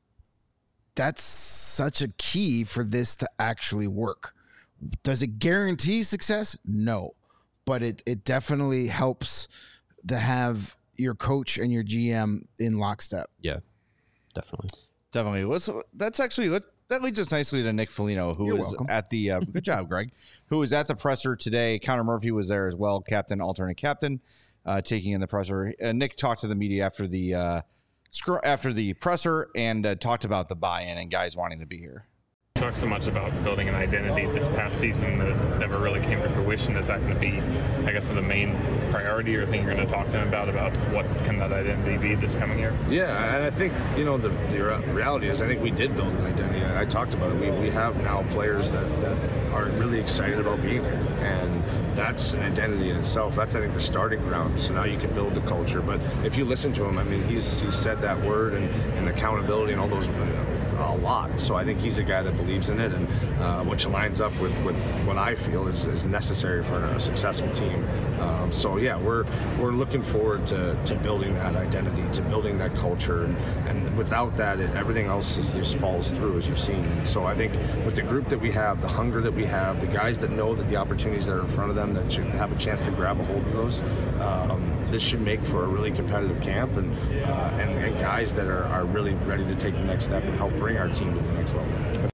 That's such a key for this to actually work. Does it guarantee success? No, but it it definitely helps to have your coach and your G M in lockstep. Yeah, definitely. Definitely. Well, so that's actually that leads us nicely to Nick Foligno, who You're was welcome. at the uh, good job, Greg, who was at the presser today. Connor Murphy was there as well, captain, alternate captain, uh, taking in the presser. Uh, Nick talked to the media after the uh, scr- after the presser and uh, talked about the buy-in and guys wanting to be here. Talked so much about building an identity this past season that never really came to fruition. Is that going to be, I guess, the main priority or thing you're going to talk to them about, about what can that identity be this coming year? Yeah, and I think, you know, the, the reality is I think we did build an identity. I, I talked about it. We, we have now players that, that are really excited about being here, and that's an identity in itself. That's, I think, the starting ground. So now you can build the culture. But if you listen to him, I mean, he's he's said that word and, and accountability and all those, you know, a lot. So I think he's a guy that believes in it, and uh, which lines up with, with what I feel is, is necessary for a successful team. Um, so yeah, we're we're looking forward to, to building that identity, to building that culture, and, and without that, it, everything else is, just falls through, as you've seen. And so I think with the group that we have, the hunger that we have, the guys that know that the opportunities that are in front of them, that should have a chance to grab a hold of those, um, this should make for a really competitive camp, and uh, and, and guys that are, are really ready to take the next step and help bring our team to the next level.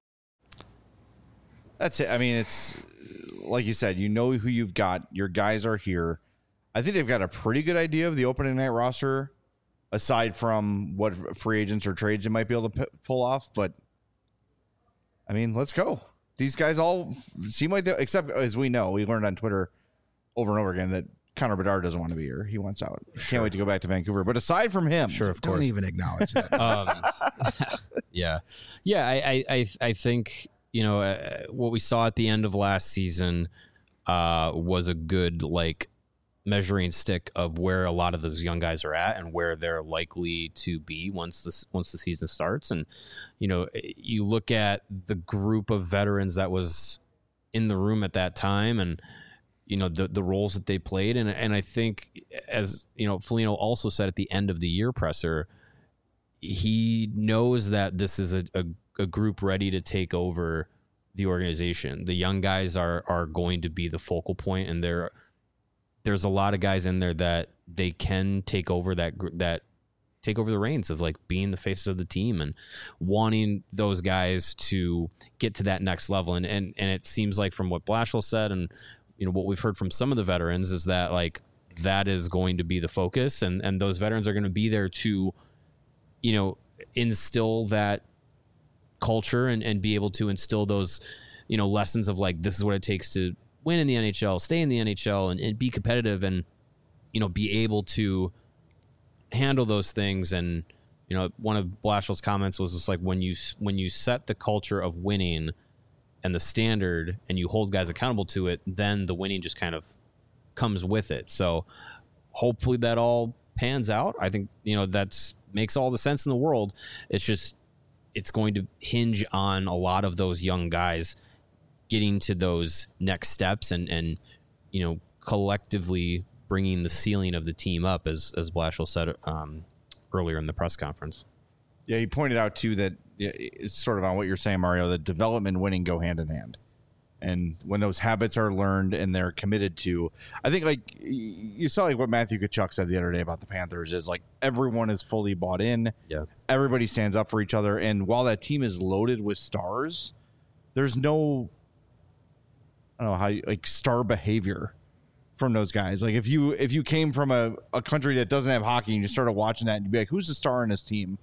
That's it. I mean, it's like you said, you know who you've got. Your guys are here. I think they've got a pretty good idea of the opening night roster, aside from what free agents or trades they might be able to p- pull off. But I mean, let's go. These guys all seem like they, except as we know, we learned on Twitter over and over again that Connor Bedard doesn't want to be here. He wants out. Can't wait to go back to Vancouver. But aside from him, Sure, of Don't course. even acknowledge that. Um, yeah, yeah. I, I, I, I think you know uh, what we saw at the end of last season uh, was a good like measuring stick of where a lot of those young guys are at and where they're likely to be once this once the season starts. And you know, you look at the group of veterans that was in the room at that time, and you know the the roles that they played, and and I think, as you know, Foligno also said at the end of the year presser, he knows that this is a, a, a group ready to take over the organization. The young guys are are going to be the focal point, and they're there's a lot of guys in there that they can take over that that take over the reins of like being the faces of the team and wanting those guys to get to that next level. And and and it seems like from what Blashill said, and you know what we've heard from some of the veterans, is that like that is going to be the focus, and and those veterans are going to be there to, you know, instill that culture and and be able to instill those, you know, lessons of like, this is what it takes to win in the N H L, stay in the N H L, and, and be competitive, and you know, be able to handle those things. And you know, one of Blashill's comments was just like, when you when you set the culture of winning and the standard, and you hold guys accountable to it, then the winning just kind of comes with it. So hopefully that all pans out. I think, you know, that's makes all the sense in the world. It's just it's going to hinge on a lot of those young guys getting to those next steps and, and, you know, collectively bringing the ceiling of the team up, as, as Blashill said um, earlier in the press conference. Yeah, he pointed out too that it's sort of on what you're saying, Mario, that development and winning go hand in hand. And when those habits are learned and they're committed to, I think like you saw like what Matthew Tkachuk said the other day about the Panthers is like everyone is fully bought in. Yeah. Everybody stands up for each other. And while that team is loaded with stars, there's no, I don't know how you, like star behavior from those guys. Like if you if you came from a, a country that doesn't have hockey and you started watching that and you'd be like, who's the star in this team?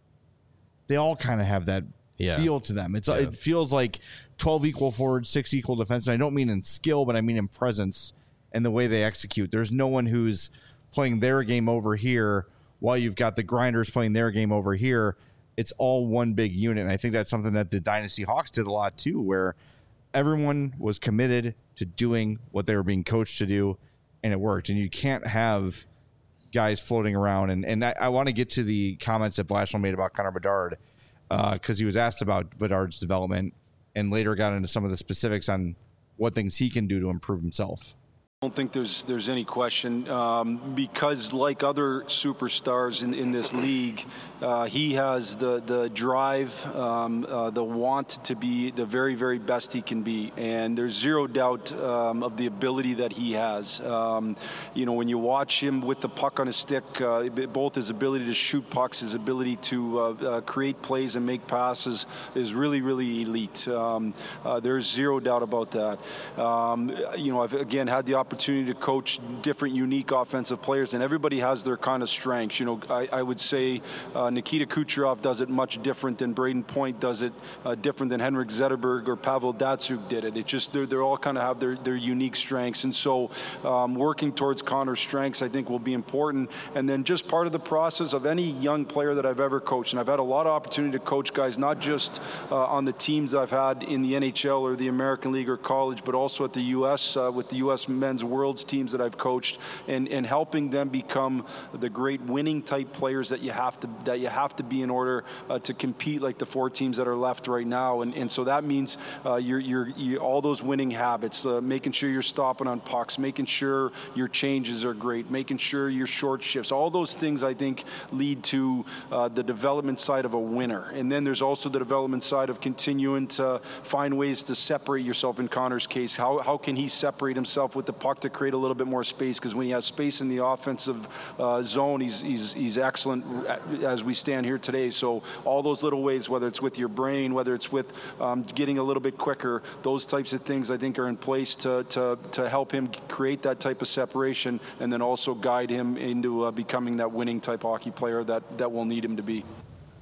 They all kind of have that yeah. feel to them. It's yeah. It feels like twelve equal forwards, six equal defense. And I don't mean in skill, but I mean in presence and the way they execute. There's no one who's playing their game over here while you've got the grinders playing their game over here. It's all one big unit. And I think that's something that the Dynasty Hawks did a lot too, where everyone was committed to doing what they were being coached to do, and it worked. And you can't have guys floating around. And, and I, I want to get to the comments that Blashill made about Connor Bedard, because uh, he was asked about Bedard's development and later got into some of the specifics on what things he can do to improve himself. I don't think there's there's any question um, because like other superstars in, in this league, uh, he has the the drive, um, uh, the want to be the very very best he can be, and there's zero doubt um, of the ability that he has. Um, you know, when you watch him with the puck on his stick, uh, both his ability to shoot pucks, his ability to uh, uh, create plays and make passes is really really elite. Um, uh, there's zero doubt about that. Um, you know, I've again had the opportunity opportunity to coach different unique offensive players, and everybody has their kind of strengths. You know, I, I would say uh, Nikita Kucherov does it much different than Braden Point does it, uh, different than Henrik Zetterberg or Pavel Datsyuk did it. It just they're, they're all kind of have their, their unique strengths, and so um, working towards Connor's strengths I think will be important. And then just part of the process of any young player that I've ever coached, and I've had a lot of opportunity to coach guys not just uh, on the teams that I've had in the N H L or the American League or college, but also at the U S uh, with the U S men's world's teams that I've coached, and, and helping them become the great winning type players that you have to that you have to be in order uh, to compete like the four teams that are left right now. And and so that means uh, you're, you're, you all those winning habits, uh, making sure you're stopping on pucks, making sure your changes are great, making sure your short shifts, all those things I think lead to uh, the development side of a winner. And then there's also the development side of continuing to find ways to separate yourself. In Connor's case, how how can he separate himself with the puck to create a little bit more space? Because when he has space in the offensive uh, zone, he's, he's he's excellent as we stand here today. So all those little ways, whether it's with your brain, whether it's with um, getting a little bit quicker, those types of things I think are in place to to to help him create that type of separation, and then also guide him into uh, becoming that winning type hockey player that that we'll need him to be.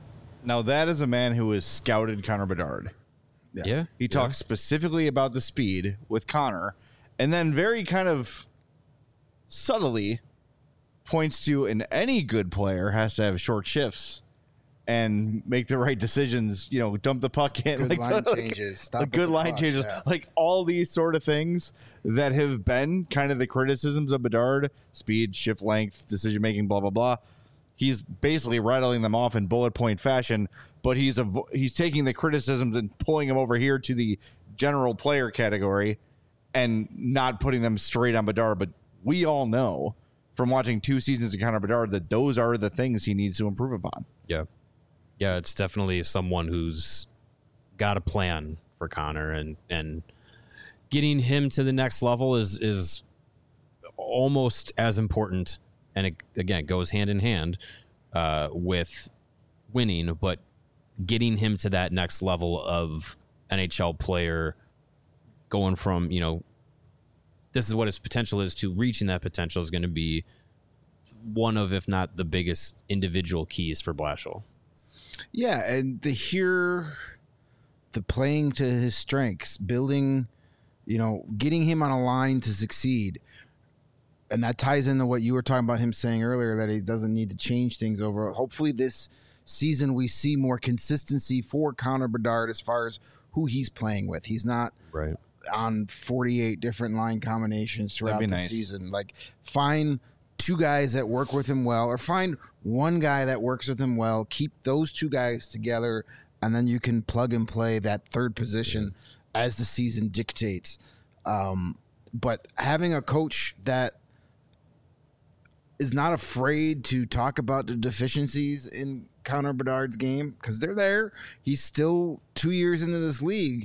Now that is a man who has scouted Connor Bedard. Yeah, yeah. He talks yeah. specifically about the speed with Connor, and then very kind of subtly points to, and any good player has to have short shifts. and make the right decisions, you know, dump the puck in, Good like line the, changes, stop like at good the line puck, changes, yeah. like all these sort of things that have been kind of the criticisms of Bedard: speed, shift length, decision making, blah blah blah. He's basically rattling them off in bullet point fashion, but he's a he's taking the criticisms and pulling them over here to the general player category, and not putting them straight on Bedard. But we all know from watching two seasons of Connor Bedard that those are the things he needs to improve upon. Yeah. Yeah, it's definitely someone who's got a plan for Connor, and and getting him to the next level is is almost as important, and it, again, goes hand in hand uh, with winning, but getting him to that next level of N H L player, going from, you know, this is what his potential is, to reaching that potential is going to be one of, if not the biggest individual keys for Blashill. Yeah, and to hear the playing to his strengths, building, you know, getting him on a line to succeed. And that ties into what you were talking about him saying earlier, that he doesn't need to change things over. Hopefully this season we see more consistency for Connor Bedard as far as who he's playing with. He's not right on forty-eight different line combinations throughout the nice. season. Like, find two guys that work with him well, or find one guy that works with him well, keep those two guys together, and then you can plug and play that third position yeah. as the season dictates. Um, but having a coach that is not afraid to talk about the deficiencies in Connor Bedard's game, because they're there. He's still two years into this league,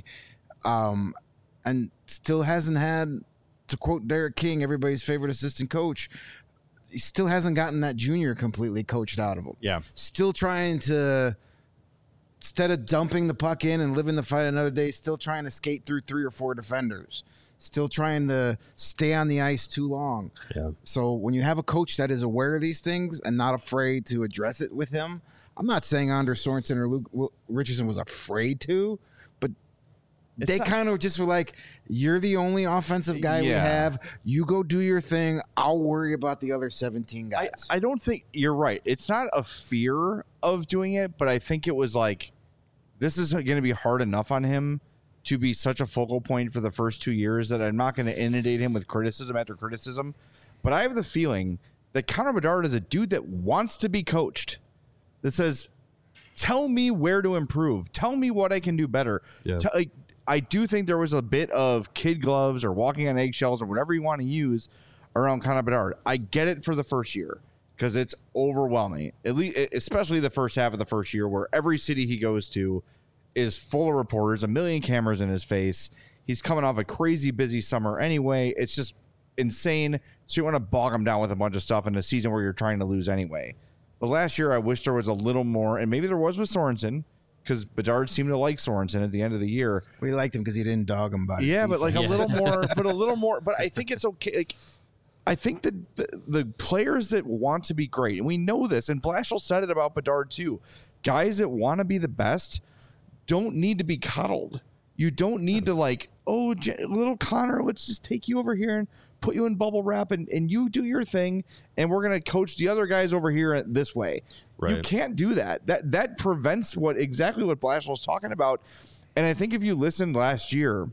um, and still hasn't had, to quote Derek King, everybody's favorite assistant coach, he still hasn't gotten that junior completely coached out of him. Yeah. Still trying to, instead of dumping the puck in and living the fight another day, still trying to skate through three or four defenders. Still trying to stay on the ice too long. Yeah. So when you have a coach that is aware of these things and not afraid to address it with him, I'm not saying Anders Sorensen or Luke Richardson was afraid to, but It's they not- kind of just were like, you're the only offensive guy we Yeah. have. You go do your thing. I'll worry about the other seventeen I, guys. I don't think you're right. It's not a fear of doing it, but I think it was like, this is going to be hard enough on him to be such a focal point for the first two years that I'm not going to inundate him with criticism after criticism. But I have the feeling that Connor Bedard is a dude that wants to be coached, that says, tell me where to improve. Tell me what I can do better. Yeah. Tell, like, I do think there was a bit of kid gloves or walking on eggshells or whatever you want to use around Connor Bedard. I get it for the first year because it's overwhelming, at least, especially the first half of the first year, where every city he goes to is full of reporters, a million cameras in his face. He's coming off a crazy busy summer anyway. It's just insane. So you want to bog him down with a bunch of stuff in a season where you're trying to lose anyway. But last year, I wish there was a little more, and maybe there was with Sorensen, because Bedard seemed to like Sorensen at the end of the year. we liked him because he didn't dog him about his Yeah, but like a defense. little more, but a little more. But I think it's okay. Like, I think that the, the players that want to be great, and we know this, and Blashill said it about Bedard too, guys that want to be the best don't need to be coddled. You don't need to like, oh, J- little Connor, let's just take you over here and put you in bubble wrap and, and you do your thing, and we're going to coach the other guys over here this way. You Right. can't do that. That that prevents what exactly what Blashill's talking about. And I think if you listened last year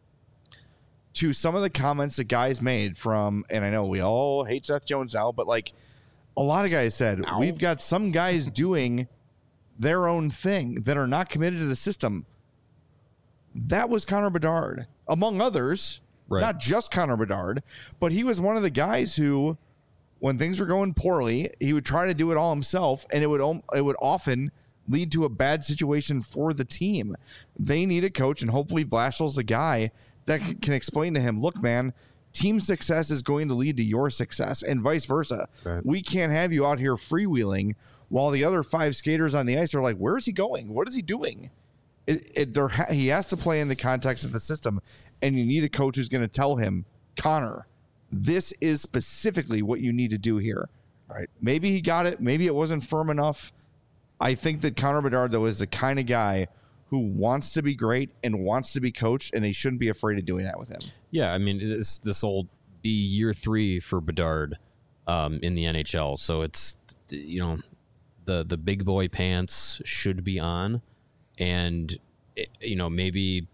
to some of the comments that guys made from, and I know we all hate Seth Jones now, but like a lot of guys said, Ow. we've got some guys doing their own thing that are not committed to the system. That was Connor Bedard, among others, Right. not just Connor Bedard, but he was one of the guys who, when things were going poorly, he would try to do it all himself, and it would om- it would often lead to a bad situation for the team. They need a coach, and hopefully Blashill's the guy that c- can explain to him, look, man, team success is going to lead to your success, and vice versa. Right. We can't have you out here freewheeling while the other five skaters on the ice are like, where is he going? What is he doing? It, it, there ha- he has to play in the context of the system, and you need a coach who's going to tell him, Connor, this is specifically what you need to do here. Right. Maybe he got it. Maybe it wasn't firm enough. I think that Connor Bedard, though, is the kind of guy who wants to be great and wants to be coached, and he shouldn't be afraid of doing that with him. Yeah, I mean, this this will be year three for Bedard um, in the N H L. So it's, you know, the the big boy pants should be on, and it, you know, maybe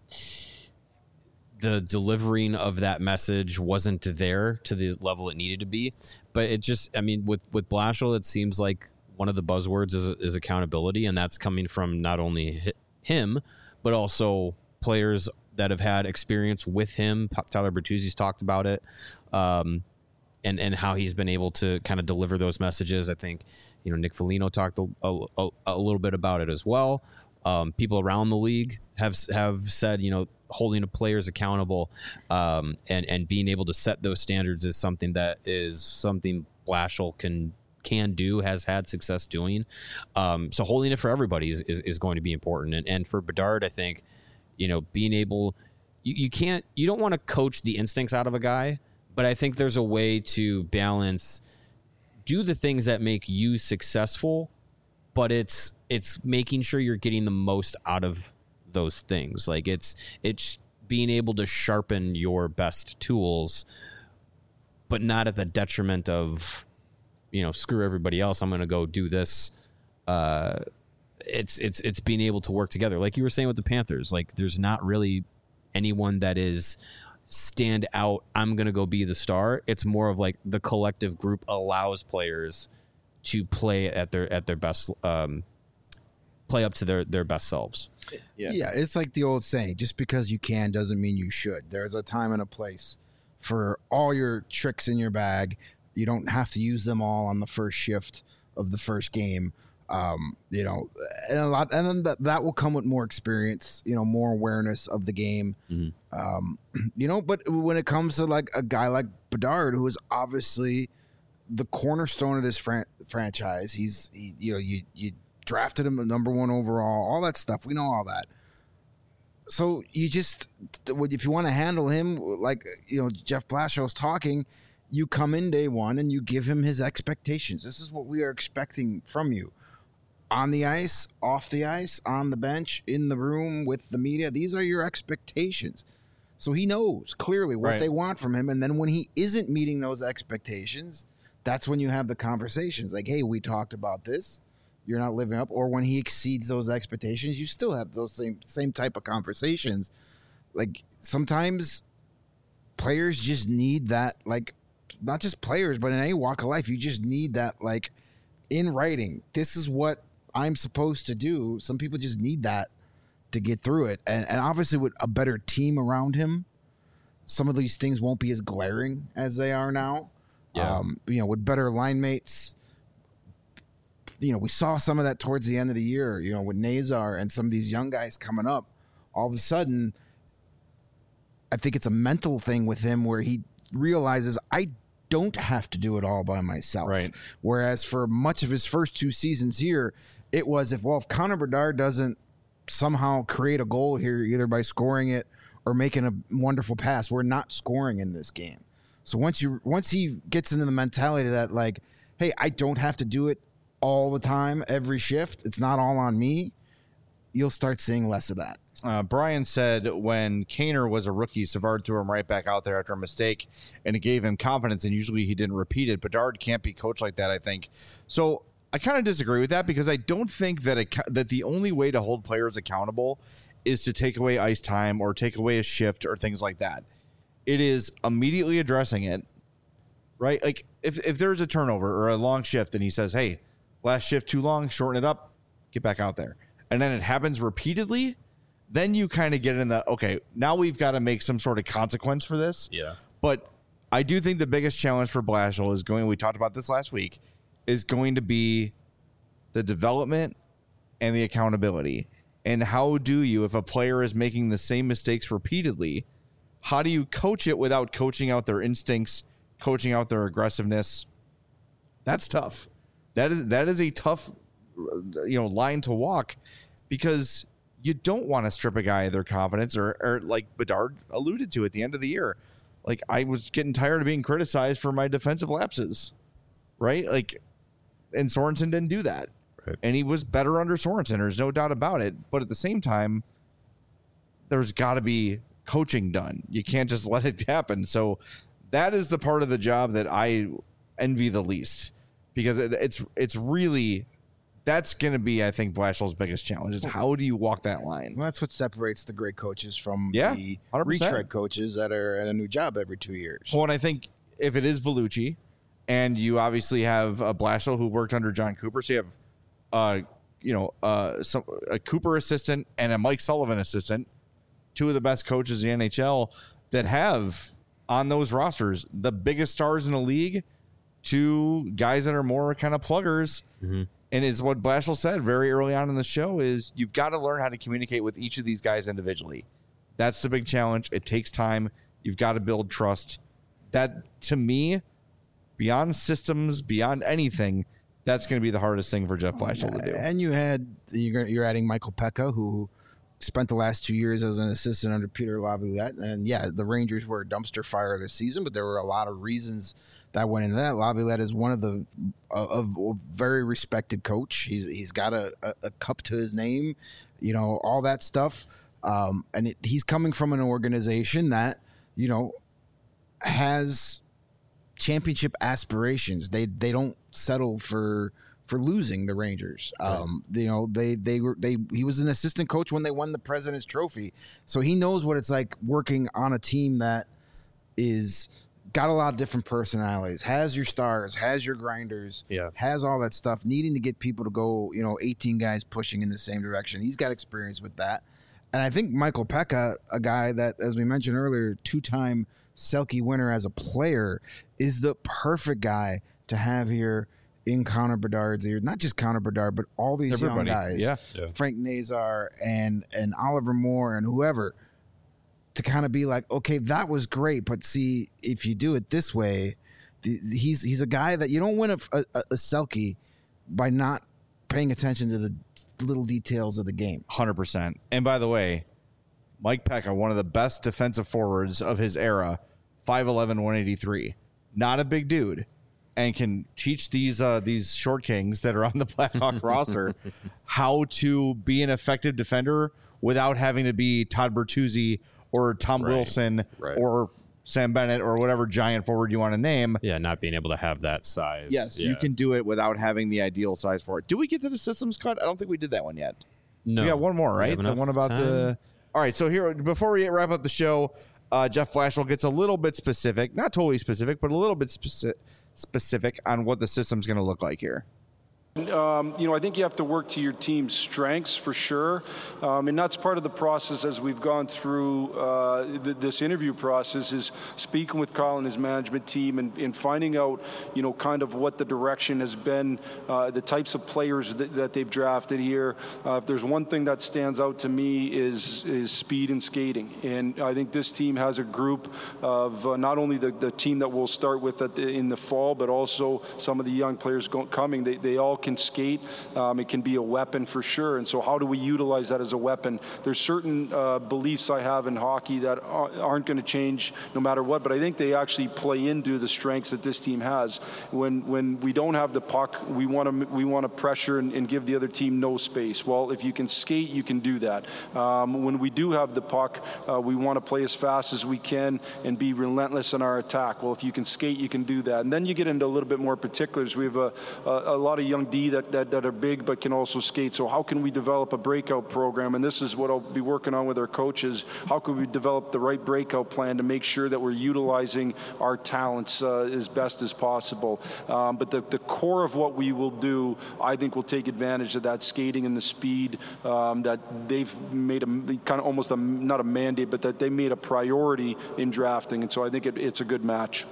the delivering of that message wasn't there to the level it needed to be. But it just, I mean, with with Blashill, it seems like one of the buzzwords is, is accountability, and that's coming from not only him but also players that have had experience with him. Tyler Bertuzzi's talked about it, um, and and how he's been able to kind of deliver those messages. I think, you know, Nick Foligno talked a, a, a little bit about it as well. Um, people around the league have have said, you know, holding the players accountable, um, and and being able to set those standards is something that is something Blashill can can do, has had success doing. Um, so holding it for everybody is, is, is going to be important. And and for Bedard, I think, you know, being able, you, you can't, you don't want to coach the instincts out of a guy, but I think there's a way to balance, do the things that make you successful, but it's, it's making sure you're getting the most out of those things. Like it's, it's being able to sharpen your best tools, but not at the detriment of, you know, screw everybody else, I'm going to go do this. Uh, it's, it's, it's being able to work together. Like you were saying with the Panthers, like there's not really anyone that is stand out, I'm going to go be the star. It's more of like the collective group allows players to play at their, at their best, um, play up to their, their best selves. Yeah. yeah. It's like the old saying, just because you can doesn't mean you should. There's a time and a place for all your tricks in your bag. You don't have to use them all on the first shift of the first game. Um, you know, and a lot, and then that, that will come with more experience, you know, more awareness of the game. Mm-hmm. Um, you know, but when it comes to like a guy like Bedard, who is obviously the cornerstone of this fran- franchise, he's, he, you know, you, you drafted him the number one overall, all that stuff. We know all that. So you just, if you want to handle him, like, you know, Jeff Blashill's talking, you come in day one and you give him his expectations. This is what we are expecting from you. On the ice, off the ice, on the bench, in the room, with the media. These are your expectations. So he knows clearly what right. they want from him. And then when he isn't meeting those expectations, that's when you have the conversations. Like, hey, we talked about this. You're not living up. Or when he exceeds those expectations, you still have those same same type of conversations. Like, sometimes players just need that, like, not just players, but in any walk of life, you just need that, like, in writing. This is what I'm supposed to do. Some people just need that to get through it. And, and obviously with a better team around him, some of these things won't be as glaring as they are now. Yeah. Um, you know, with better line mates, you know, we saw some of that towards the end of the year, you know, with Nazar and some of these young guys coming up. All of a sudden, I think it's a mental thing with him where he realizes, I don't have to do it all by myself. Right. Whereas for much of his first two seasons here, it was if, well, if Connor Bedard doesn't somehow create a goal here, either by scoring it or making a wonderful pass, we're not scoring in this game. So once you once he gets into the mentality that, like, hey, I don't have to do it all the time, every shift, it's not all on me, you'll start seeing less of that. Uh, Brian said when Kaner was a rookie, Savard threw him right back out there after a mistake, and it gave him confidence, and usually he didn't repeat it. Bedard can't be coached like that, I think. So I kind of disagree with that, because I don't think that it, that the only way to hold players accountable is to take away ice time or take away a shift or things like that. It is immediately addressing it, right? Like if, if there's a turnover or a long shift and he says, hey, last shift too long, shorten it up, get back out there. And then it happens repeatedly, then you kind of get in the, okay, now we've got to make some sort of consequence for this. Yeah. But I do think the biggest challenge for Blashill is going, we talked about this last week, is going to be the development and the accountability. And how do you, if a player is making the same mistakes repeatedly, how do you coach it without coaching out their instincts, coaching out their aggressiveness? That's tough. That is that is a tough, you know, line to walk, because you don't want to strip a guy of their confidence, or, or like Bedard alluded to at the end of the year. Like, I was getting tired of being criticized for my defensive lapses, right? Like, and Sorensen didn't do that. Right. And he was better under Sorensen. There's no doubt about it. But at the same time, there's got to be coaching done. You can't just let it happen. So that is the part of the job that I envy the least, because it, it's it's really That's going to be, I think, Blashill's biggest challenge is how do you walk that line? Well, that's what separates the great coaches from Yeah, the one hundred percent. retread coaches that are at a new job every two years. Well, and I think if it is Vellucci, and you obviously have a Blashill who worked under John Cooper, so you have, uh, you know, uh, some a Cooper assistant and a Mike Sullivan assistant, two of the best coaches in the N H L that have on those rosters the biggest stars in the league to guys that are more kind of pluggers. Mm-hmm. And it's what Blashill said very early on in the show is you've got to learn how to communicate with each of these guys individually. That's the big challenge. It takes time. You've got to build trust. That, to me, beyond systems, beyond anything, that's going to be the hardest thing for Jeff Blashill to do. And you had you're you're adding Michael Pekka, who spent the last two years as an assistant under Peter Laviolette. And yeah, the Rangers were a dumpster fire this season, but there were a lot of reasons that went into that. Laviolette is one of the of a very respected coach. He's he's got a, a, a cup to his name, you know, all that stuff. Um, and it, he's coming from an organization that, you know, has championship aspirations. They they don't settle for for losing the Rangers. Um, you know, they they were they he was an assistant coach when they won the President's Trophy. So he knows what it's like working on a team that is got a lot of different personalities, has your stars, has your grinders, Yeah. has all that stuff, needing to get people to go, you know, eighteen guys pushing in the same direction. He's got experience with that. And I think Michael Pekka, a guy that, as we mentioned earlier, two-time Selke winner as a player, is the perfect guy to have here in Connor Bedard's ears. Not just Connor Bedard, but all these Everybody. young guys. Yeah. Yeah. Frank Nazar and and Oliver Moore and whoever, to kind of be like, okay, that was great, but see, if you do it this way, the, he's he's a guy that you don't win a, a, a Selke by not paying attention to the little details of the game. one hundred percent. And by the way, Mike Pekka, one of the best defensive forwards of his era, five eleven, one eighty-three. Not a big dude, and can teach these uh, these short kings that are on the Blackhawk roster how to be an effective defender without having to be Todd Bertuzzi or Tom Right. Wilson Right. or Sam Bennett or whatever giant forward you want to name. Yeah, not being able to have that size. Yes, Yeah. you can do it without having the ideal size for it. Did we get to the systems cut? I don't think we did that one yet. No. We got one more, We right? have The enough one about time? the. All right, so here before we wrap up the show, uh, Jeff Blashill gets a little bit specific, not totally specific, but a little bit speci- specific on what the system's going to look like here. Um, you know, I think you have to work to your team's strengths for sure, um, and that's part of the process as we've gone through uh, th- this interview process is speaking with Carl and his management team and, and finding out, you know, kind of what the direction has been, uh, the types of players that, that they've drafted here. Uh, if there's one thing that stands out to me is is speed and skating, and I think this team has a group of uh, not only the, the team that we'll start with at the, in the fall, but also some of the young players go, coming. They, they all can skate. Um, it can be a weapon for sure. And so how do we utilize that as a weapon? There's certain uh, beliefs I have in hockey that aren't going to change no matter what, but I think they actually play into the strengths that this team has. When when we don't have the puck, we want to we want to pressure and, and give the other team no space. Well, if you can skate, you can do that. Um, when we do have the puck, uh, we want to play as fast as we can and be relentless in our attack. Well, if you can skate, you can do that. And then you get into a little bit more particulars. We have a, a, a lot of young D that, that, that are big but can also skate. So how can we develop a breakout program? And this is what I'll be working on with our coaches. How can we develop the right breakout plan to make sure that we're utilizing our talents uh, as best as possible? Um, but the, the core of what we will do, I think, will take advantage of that skating and the speed um, that they've made a kind of almost a, not a mandate, but that they made a priority in drafting. And so I think it, it's a good match.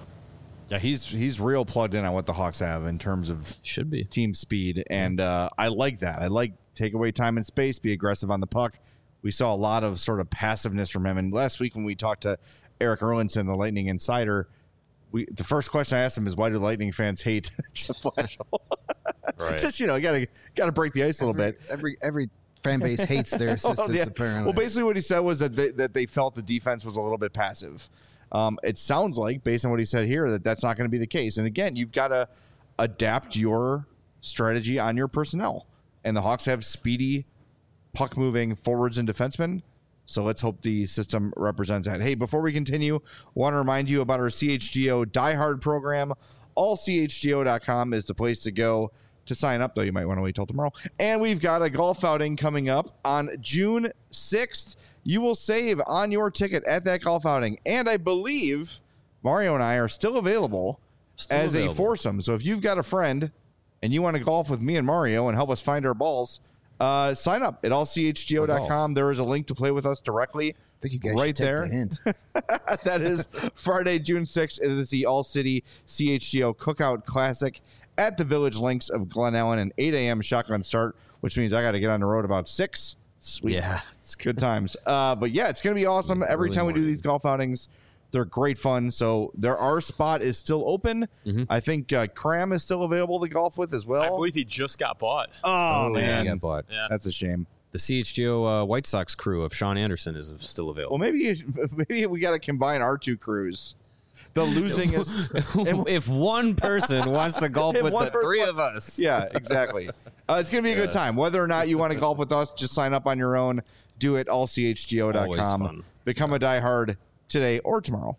Yeah, he's he's real plugged in on what the Hawks have in terms of Should be. team speed, and uh, I like that. I like take away time and space, be aggressive on the puck. We saw a lot of sort of passiveness from him. And last week when we talked to Eric Erlinson, the Lightning insider, we the first question I asked him is, why do Lightning fans hate Jeff Blashill? Right. Just, you know, you gotta gotta break the ice a little every, bit. Every every fan base hates their assistants. Well, yeah. Apparently, Well, basically what he said was that they, that they felt the defense was a little bit passive. Um, it sounds like, based on what he said here, that that's not going to be the case. And again, you've got to adapt your strategy on your personnel. And the Hawks have speedy, puck-moving forwards and defensemen. So let's hope the system represents that. Hey, before we continue, want to remind you about our C H G O Die Hard program. all C H G O dot com is the place to go to sign up, though. You might want to wait till tomorrow. And we've got a golf outing coming up on June sixth. You will save on your ticket at that golf outing. And I believe Mario and I are still available Still as available. a foursome. So if you've got a friend and you want to golf with me and Mario and help us find our balls, uh, sign up at all c h g o dot com. There is a link to play with us directly. I think you guys right should take there. the hint. That is Friday, June sixth. It is the All City C H G O Cookout Classic at the Village Links of Glen Ellen, an eight a.m. shotgun start, which means I got to get on the road about six. Sweet. Yeah, It's good times. Uh, but yeah, it's going to be awesome. Every Early time we do morning. these golf outings, they're great fun. So there, our spot is still open. Mhm. I think uh, Cram is still available to golf with as well. I believe he just got bought. oh, yeah, man. he got bought. Yeah. That's a shame. The C H G O uh, White Sox crew of Sean Anderson is still available. Well, maybe maybe we got to combine our two crews. The losing is if one person wants to golf If with one the person three wants- of us, yeah, exactly. Uh, it's going to be a good time. Whether or not you want to golf with us, just sign up on your own. Do it all c h g o dot Always com. fun. Become a diehard today or tomorrow.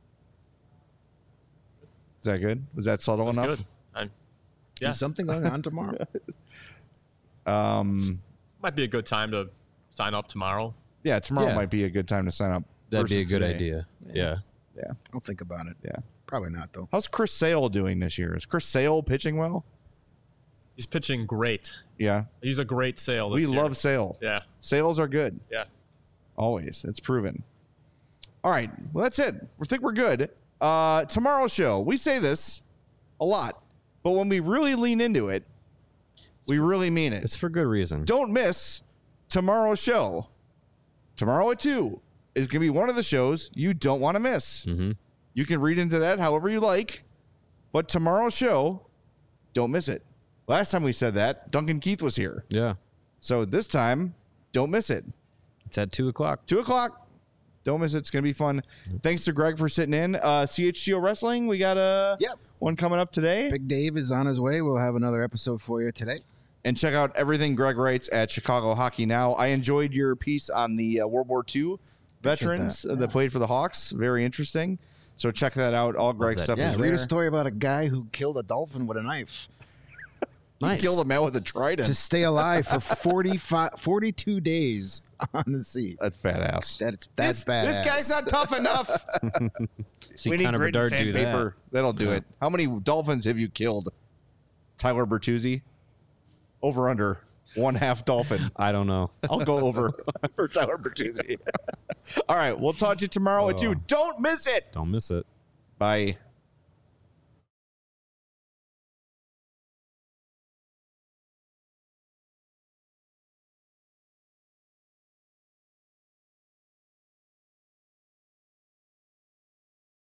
Is that good? Was that subtle That's enough? good. I, yeah, Is something going on tomorrow? Um, might be a good time to sign up tomorrow. yeah, tomorrow Yeah. might be a good time to sign up. that'd be a versus good today. idea. Yeah. Yeah. I'll think about it. Yeah. Probably not, though. How's Chris Sale doing this year? Is Chris Sale pitching well? He's pitching great. Yeah. He's a great sale. We This year. love Sale. Yeah, Sales are good. yeah. Always. It's proven. All right. Well, that's it. We think we're good. Uh, tomorrow's show. We say this a lot, but when we really lean into it, we really mean it. It's for good reason. Don't miss tomorrow's show. Tomorrow at two is going to be one of the shows you don't want to miss. Mm-hmm. You can read into that however you like, but tomorrow's show, don't miss it. Last time we said that, Duncan Keith was here. Yeah. So this time, don't miss it. It's at two o'clock. Two o'clock. Don't miss it. It's going to be fun. Thanks to Greg for sitting in. Uh, C H G O Wrestling, we got a Yep. one coming up today. Big Dave is on his way. We'll have another episode for you today. And check out everything Greg writes at Chicago Hockey Now. I enjoyed your piece on the uh, World War Two veterans that, that, that played for the Hawks. Very interesting. So check that out. All Greg's that. stuff Yeah, is read there. a story about a guy who killed a dolphin with a knife He killed a man with a trident. to stay alive for forty-five, forty-two days on the sea. That's badass. That's that's this, bad. this guy's not tough enough. See we need Connor grit and Bedard do that. sandpaper. That'll do Yeah. it. How many dolphins have you killed? Tyler Bertuzzi? Over under. One half dolphin. I don't know. I'll go over for Tyler Bertuzzi. All right. We'll talk to you tomorrow at two. Don't miss it. Don't miss it. Bye.